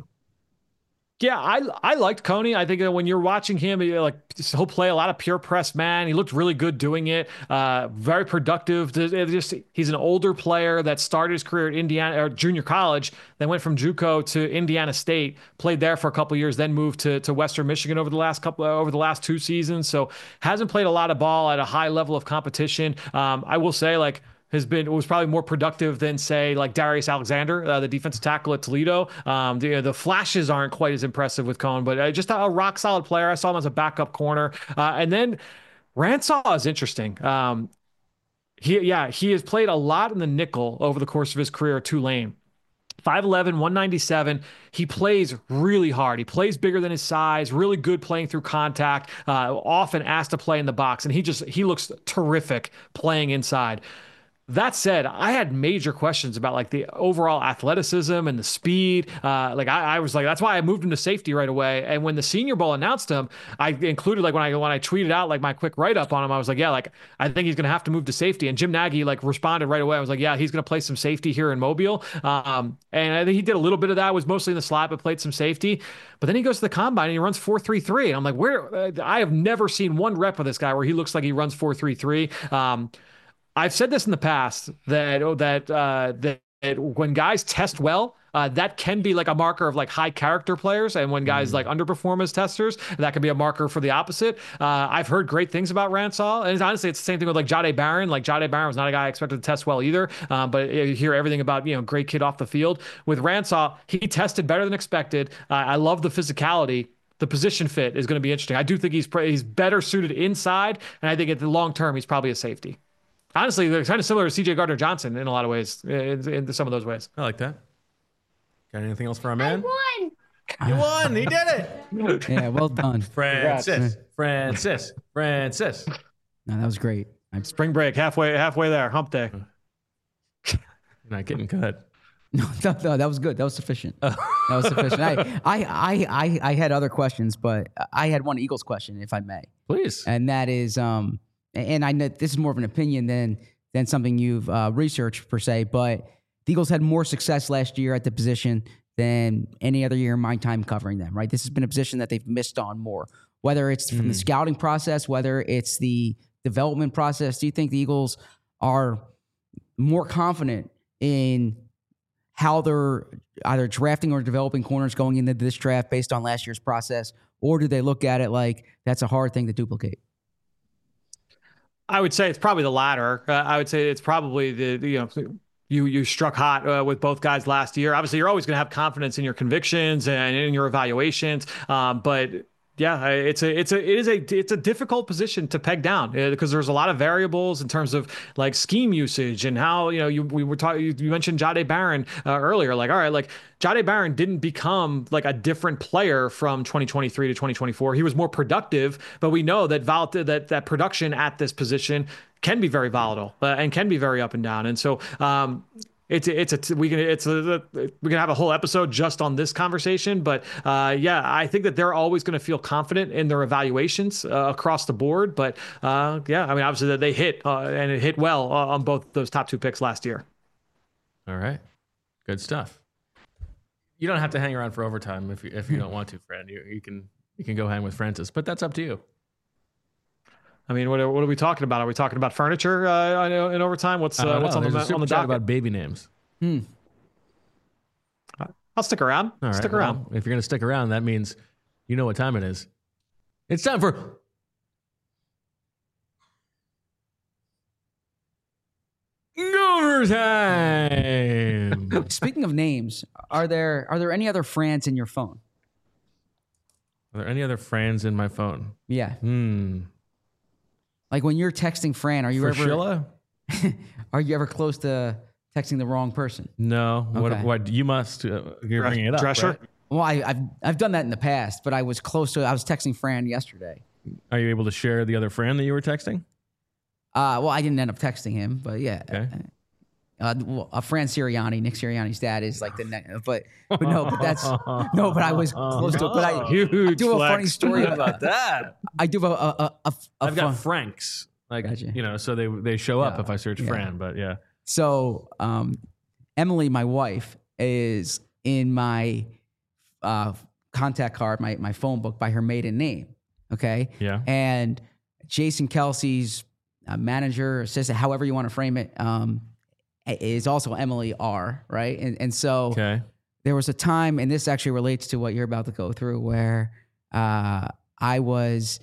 Yeah, I I liked Coney. I think that when you're watching him, he, like he'll play a lot of pure press man. He looked really good doing it. Uh, very productive. It just he's an older player that started his career at Indiana or junior college, then went from JUCO to Indiana State, played there for a couple of years, then moved to to Western Michigan over the last couple over the last two seasons. So hasn't played a lot of ball at a high level of competition. Um, I will say like. has been was probably more productive than say like Darius Alexander, uh, the defensive tackle at Toledo. Um, the the flashes aren't quite as impressive with Cohn, but uh, just a, a rock solid player. I saw him as a backup corner, uh, and then Ransaw is interesting. Um, he yeah he has played a lot in the nickel over the course of his career at Tulane. five eleven, one ninety-seven. He plays really hard. He plays bigger than his size, really good playing through contact, uh, often asked to play in the box. And he just, he looks terrific playing inside. That said, I had major questions about like the overall athleticism and the speed. Uh, like I, I was like, that's why I moved him to safety right away. And when the Senior Bowl announced him, I included like when I when I tweeted out like my quick write up on him, I was like, yeah, like I think he's gonna have to move to safety. And Jim Nagy like responded right away. I was like, yeah, he's gonna play some safety here in Mobile. Um, and I think he did a little bit of that. Was mostly in the slot, but played some safety. But then he goes to the combine and he runs four three three. And I'm like, where? Uh, I have never seen one rep of this guy where he looks like he runs four three three. Um, I've said this in the past that oh, that uh, that when guys test well, uh, that can be like a marker of like high character players, and when guys mm. like underperform as testers, that can be a marker for the opposite. Uh, I've heard great things about Ransaw, and honestly, it's the same thing with like Jahdae Barron. Like Jahdae Barron was not a guy I expected to test well either, um, but you hear everything about you know great kid off the field. With Ransaw, he tested better than expected. Uh, I love the physicality. The position fit is going to be interesting. I do think he's he's better suited inside, and I think at the long term, he's probably a safety. Honestly, they're kind of similar to C J Gardner-Johnson in a lot of ways, in, in some of those ways. I like that. Got anything else for our man? I won. You won. He did it. Yeah, well done. Francis. Congrats. Francis. Francis. No, that was great. I'm... Spring break, halfway halfway there, hump day. You're not getting cut. No, no, no, that was good. That was sufficient. That was sufficient. I, I, I, I, I had other questions, but I had one Eagles question, if I may. Please. And that is... um. And I know this is more of an opinion than than something you've uh, researched per se, but the Eagles had more success last year at the position than any other year in my time covering them, right? This has been a position that they've missed on more, whether it's from mm. the scouting process, whether it's the development process. Do you think the Eagles are more confident in how they're either drafting or developing corners going into this draft based on last year's process, or do they look at it like that's a hard thing to duplicate? I would say it's probably the latter. Uh, I would say it's probably the, the you know you you struck hot uh, with both guys last year. Obviously, you're always going to have confidence in your convictions and in your evaluations, um, but. Yeah, it's a it's a it is a it's a difficult position to peg down uh, because there's a lot of variables in terms of like scheme usage and how you know you we were talking. You mentioned Jahdae Barron uh, earlier. Like, all right, like Jahdae Barron didn't become like a different player from twenty twenty-three to twenty twenty-four. He was more productive, but we know that vol- that that production at this position can be very volatile uh, and can be very up and down. And so. Um, It's it's a we can it's a we can have a whole episode just on this conversation, but uh, yeah, I think that they're always going to feel confident in their evaluations uh, across the board. But uh, yeah, I mean, obviously that they hit uh, and it hit well uh, on both those top two picks last year. All right, good stuff. You don't have to hang around for overtime if you if you don't want to, friend. You you can you can go hang with Francis, but that's up to you. I mean, what are, what are we talking about? Are we talking about furniture uh, in overtime? What's uh, what's know. on There's the on the docket? About baby names. Hmm. I'll stick around. All right, stick well, around. If you're going to stick around, that means you know what time it is. It's time for. Goober time. Speaking of names, are there are there any other Frans in your phone? Are there any other Frans in my phone? Yeah. Hmm. Like when you're texting Fran, are you For ever Sheila? are you ever close to texting the wrong person? No. What? Okay. What? You must. Uh, you're bringing it up. Drescher? Right? Well, I, I've I've done that in the past, but I was close to. I was texting Fran yesterday. Are you able to share the other Fran that you were texting? Uh, well, I didn't end up texting him, but yeah. Okay. Uh, well, uh, Fran Sirianni, Nick Sirianni's dad is like the next, but but no, but that's no, but I was close to it. But I, Huge I do a flex. funny story How about about that? I do have a a, a, a, a I've got fun- Franks. Like Gotcha. you know, so they they show up Yeah. if I search Yeah. Fran. But yeah. So um, Emily, my wife, is in my uh, contact card, my my phone book by her maiden name. Okay. Yeah. And Jason Kelsey's uh, manager, assistant, however you want to frame it, um, is also Emily R. Right. And and so Okay. there was a time, and this actually relates to what you're about to go through, where uh, I was,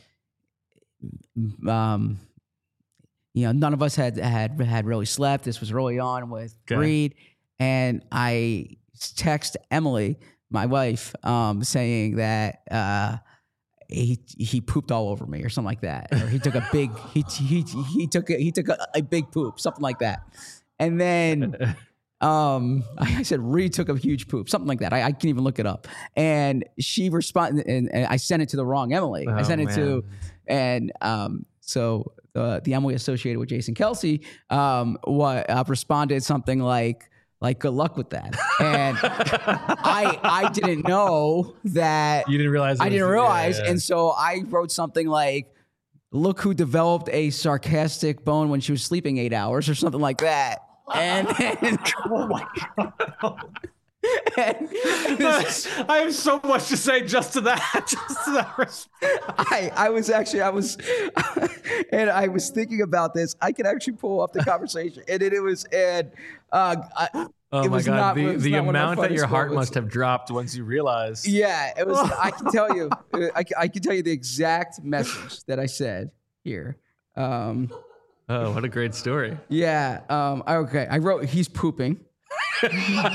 um, you know, none of us had had had really slept. This was early on with Okay. Reed, and I text Emily, my wife, um, saying that uh, he he pooped all over me or something like that, or he took a big he he he took a, he took a, a big poop, something like that, and then. Um, I said Reed took a huge poop, something like that. I, I can't even look it up. And she responded, and, and I sent it to the wrong Emily. I Oh, sent it to, man. and um, so the the Emily associated with Jason Kelsey, um, what uh, responded something like like good luck with that. And I I didn't know that. You didn't realize. it I was- didn't realize, yeah, yeah. and so I wrote something like, "Look who developed a sarcastic bone when she was sleeping eight hours," or something like that. And then, Oh my god! and this- I have so much to say just to that. Just to that. response. I I was actually I was, and I was thinking about this. I could actually pull up the conversation, and it, it was and uh, I, Oh it my was god! not- it the was the not one of my amount that funniest your heart moments. must have dropped once you realized. yeah, it was. I can tell you, I, can- I can tell you the exact message that I said here. Um, Oh, what a great story! yeah. Um, okay. I wrote he's pooping. So,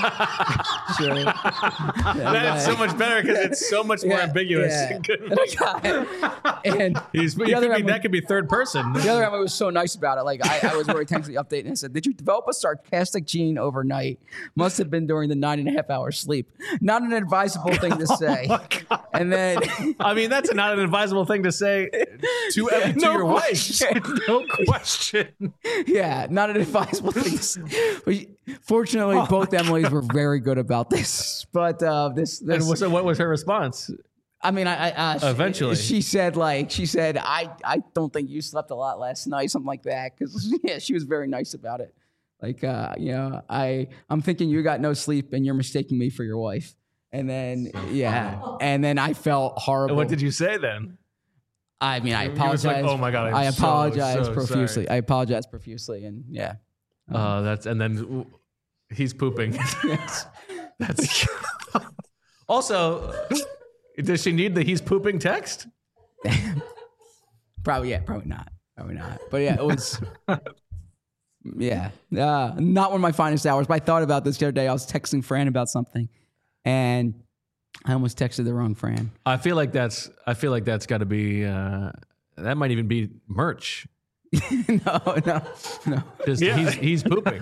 That's so much better because it's so much more Yeah, ambiguous. yeah. And I got it. And He's, the you other could be, Emily- that could be third person. The other Emily was so nice about it. Like I, I was very thankful for the update, and I said, "Did you develop a sarcastic gene overnight? Must have been during the nine and a half hours sleep. Not an advisable thing to say." And then, I mean, that's not an advisable thing to say to, to No your wife. question. No question. yeah, not an advisable thing to say. But fortunately, Oh both Emilys were very good about this. But uh, this, And this what- so what was her response? I mean, I, I uh, she- Eventually. she said like she said, I, I don't think you slept a lot last night, something like that. Because yeah, she was very nice about it. Like, uh, you know, I I'm thinking you got no sleep and you're mistaking me for your wife. And then yeah, and then I felt horrible. And what did you say then? I mean, I You- you was like, apologize. "Oh my God, I'm I so, apologize so profusely. sorry." I apologize profusely, and yeah, Uh, that's and then ooh, he's pooping. yes. That's also. Does she need the he's pooping text? Probably yeah, probably not, probably not. But yeah, it was. Yeah, uh, not one of my finest hours. But I thought about this the other day. I was texting Fran about something, and I almost texted the wrong Fran. I feel like that's. I feel like that's got to be. Uh, that might even be merch. no, no, no. Just Yeah. he's he's pooping.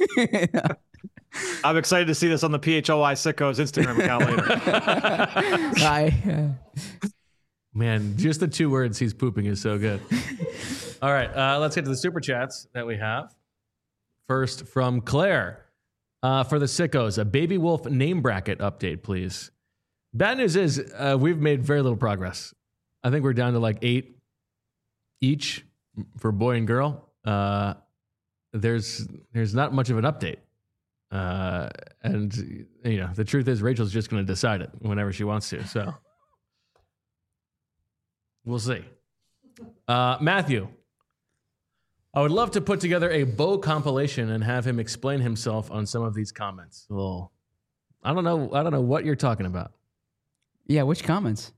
I'm excited to see this on the P H O I Sickos Instagram account later. I, uh, Man, just the two words he's pooping is so good. All right, uh, let's get to the super chats that we have. First from Claire. Uh, for the sickos, a Baby Wolf name bracket update, please. Bad news is uh, we've made very little progress. I think we're down to like eight each for boy and girl. Uh, there's there's not much of an update. Uh, and, you know, the truth is Rachel's just going to decide it whenever she wants to. So we'll see. Uh, Matthew, I would love to put together a Bo compilation and have him explain himself on some of these comments. Well, I don't know. I don't know what you're talking about. yeah, which comments?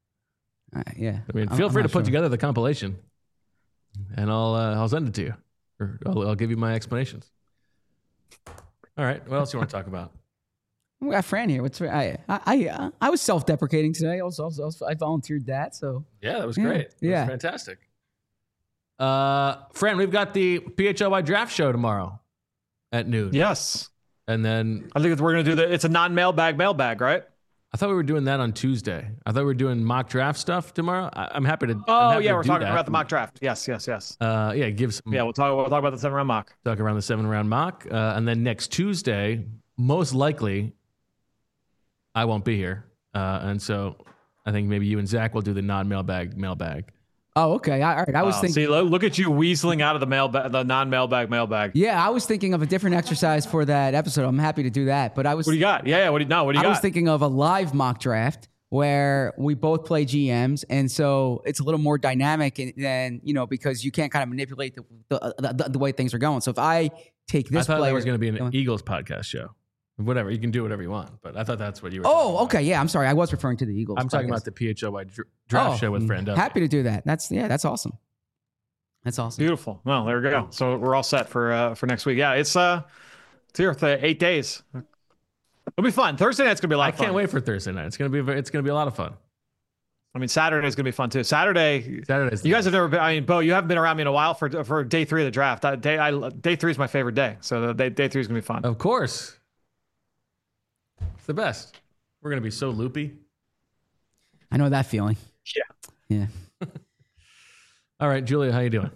Uh, yeah, I mean, I'm- feel I'm free to not put sure. together the compilation, and I'll uh, I'll send it to you. Or I'll, I'll give you my explanations. All right. What else you want to talk about? We got Fran here. What's I I I, I was self-deprecating today. I was also I volunteered that. So Yeah, that was Yeah, great. That yeah. was fantastic. Uh, Fran, we've got the P H L Y draft show tomorrow at noon. Yes. And then I think we're going to do the, it's a non-mailbag mailbag, right? I thought we were doing that on Tuesday. I thought we were doing mock draft stuff tomorrow. I, I'm happy to. I'm Oh, happy yeah, to we're do talking that. about the mock draft. Yes, yes, yes. Uh, yeah, give some. Yeah, we'll talk, we'll talk about the seven round mock. Talk around the seven round mock. Uh, and then next Tuesday, most likely, I won't be here. Uh, and so I think maybe you and Zach will do the non mailbag mailbag. oh okay. I, all right. I was Wow. thinking. See, lo- look at you weaseling out of the mailbag, the non-mailbag mailbag. Yeah, I was thinking of a different exercise for that episode. I'm happy to do that. But I was What do you got? Yeah, yeah. What do you, no, what do you I got? was thinking of a live mock draft where we both play G Ms, and so it's a little more dynamic than you know because you can't kind of manipulate the the, the, the way things are going. So if I take this I thought player, that was going to be an Eagles podcast show. Whatever, you can do whatever you want. But I thought that's what you were. talking oh, about. okay, yeah, I'm sorry, I was referring to the Eagles. I'm talking podcast. about the P H L Y dr- draft Oh, show with Fran Duffy. Happy to do that. That's yeah, that's awesome. That's awesome. Beautiful. Well, there we go. So we're all set for uh, for next week. Yeah, it's uh, it's here for eight days. It'll be fun. Thursday night's gonna be a lot I of fun. can't wait for Thursday night. It's gonna be. a very- It's gonna be a lot of fun. I mean, Saturday's gonna be fun too. Saturday. Saturday's. You guys have never been. I mean, Bo, you haven't been around me in a while for for day three of the draft. That day, I day three is my favorite day. So the day, day three is gonna be fun. Of course. It's the best. We're gonna be so loopy. I know that feeling. Yeah. Yeah. All right, Julia, how you doing?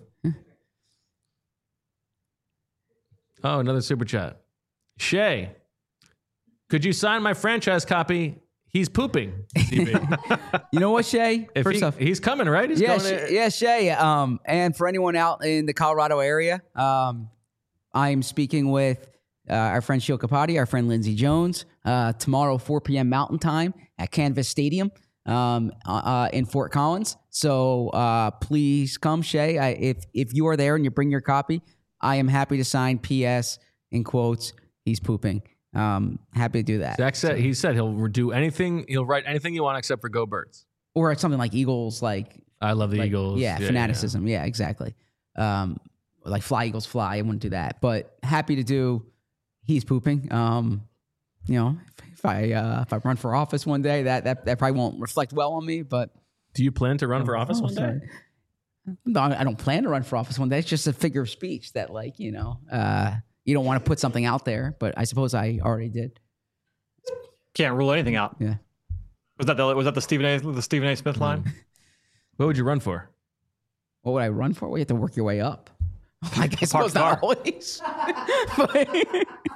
Oh, another super chat. Shay, could you sign my franchise copy? He's pooping. D B. You know what, Shay? If First he- off, he's coming, right? He's yeah, going Shay, to, yeah, Shay. Um, and for anyone out in the Colorado area, um, I'm speaking with uh, our friend Shil Kapati, our friend Lindsey Jones, uh, tomorrow, four p.m. Mountain Time at Canvas Stadium um, uh, in Fort Collins. So uh, please come, Shay. I, if if you are there and you bring your copy, I am happy to sign P S in quotes. He's pooping. Um, happy to do that. Zach said, he said he'll do anything. He'll write anything you want except for Go Birds. Or it's something like Eagles, like I love the like, Eagles. Yeah, fanaticism. Yeah, exactly. Um, like fly Eagles fly. I wouldn't do that, but happy to do. He's pooping. Um, you know, if, if I uh, if I run for office one day, that that that probably won't reflect well on me. But Do you plan to run for office Oh, one day? sorry. No, I don't plan to run for office one day. It's just a figure of speech that, like, you know, uh, you don't want to put something out there. But I suppose I already did. Can't rule anything out. Yeah. Was that the was that the Stephen A. the Stephen A. Smith line? What would you run for? What would I run for? Well, you have to work your way up. Like, I suppose Park not always. But-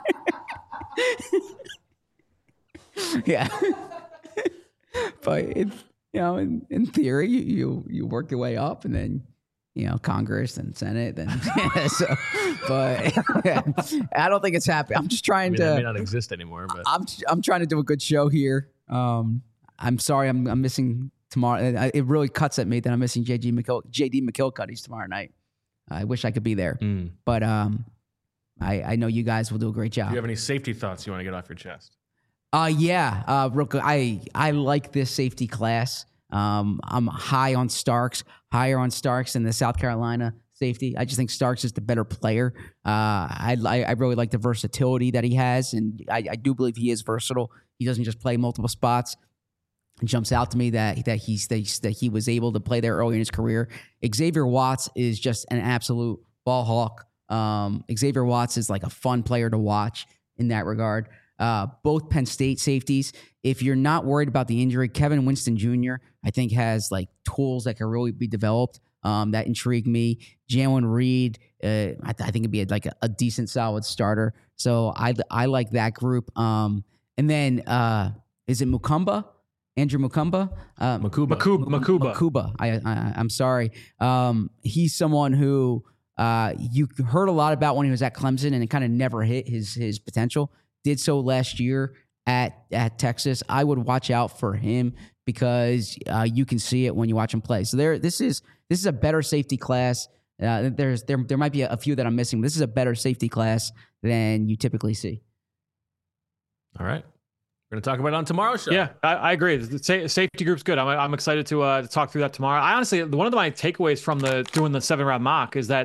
yeah. But it, you know, in, in theory, you, you you work your way up, and then you know Congress and Senate, and yeah, so. But yeah, I don't think it's happening. I'm just I trying mean, that may to. not exist anymore, but I'm I'm trying to do a good show here. Um, I'm sorry, I'm I'm missing tomorrow. It it really cuts at me that I'm missing J G McKill, J D McKilcuddy's tomorrow night. I wish I could be there, Mm. but um, I I know you guys will do a great do job. you have any safety thoughts you want to get off your chest? Uh, yeah, uh, real quick, I I like this safety class. Um, I'm high on Starks, higher on Starks than the South Carolina safety. I just think Starks is the better player. Uh, I I I really like the versatility that he has, and I, I do believe he is versatile. He doesn't just play multiple spots. It jumps out to me that that he's that, he's, that he was able to play there early in his career. Xavier Watts is just an absolute ball hawk. Um, Xavier Watts is like a fun player to watch in that regard. Uh, both Penn State safeties. If you're not worried about the injury, Kevin Winston Junior I think has like tools that can really be developed. Um, that intrigue me. Jalen Reed, uh, I, th- I think it'd be a, like a, a decent, solid starter. So I I like that group. Um, and then uh, is it Mukumba? Andrew Mukumba? Uh, Makuba. Makuba. Makuba. Makuba. I, I I'm sorry. Um, he's someone who uh, you heard a lot about when he was at Clemson, and it kind of never hit his his potential. Did so last year at at Texas. I would watch out for him because uh, you can see it when you watch him play. So there, this is this is a better safety class. Uh, there's there there might be a, a few that I'm missing. But this is a better safety class than you typically see. All right. We're going to talk about it on tomorrow's show. Yeah, I, I agree. The sa- safety group's good. I'm, I'm excited to uh, to talk through that tomorrow. I honestly, one of my takeaways from the doing the seven round mock is that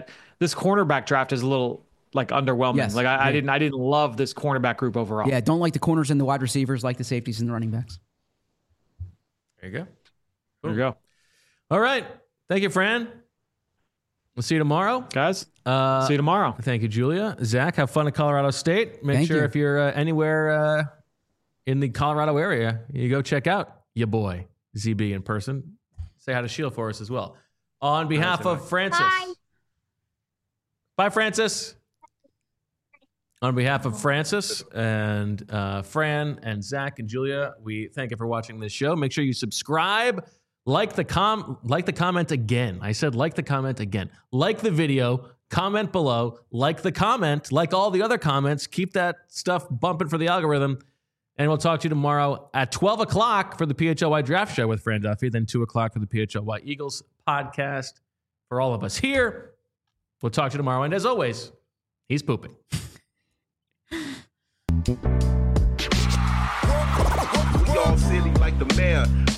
this cornerback draft is a little like underwhelming. Yes. Like I, Yeah. I didn't I didn't love this cornerback group overall. Yeah, don't like the corners and the wide receivers, like the safeties and the running backs. There you go. There you go. All right. Thank you, Fran. We'll see you tomorrow. Guys, Uh, see you tomorrow. Thank you, Julia. Zach, have fun at Colorado State. Make Thank sure you. if you're uh, anywhere uh, in the Colorado area, you go check out your boy, Z B, in person. Say hi to Shield for us as well. On behalf of Francis. Bye. Bye, Francis. On behalf of Francis and uh, Fran and Zach and Julia, we thank you for watching this show. Make sure you subscribe, like the com, like the comment again. I said like the comment again. Like the video, comment below, like the comment, like all the other comments. Keep that stuff bumping for the algorithm. And we'll talk to you tomorrow at twelve o'clock for the P H L Y Draft Show with Fran Duffy, then two o'clock for the P H L Y Eagles podcast. For all of us here, we'll talk to you tomorrow. And as always, he's pooping. We all silly like the mayor.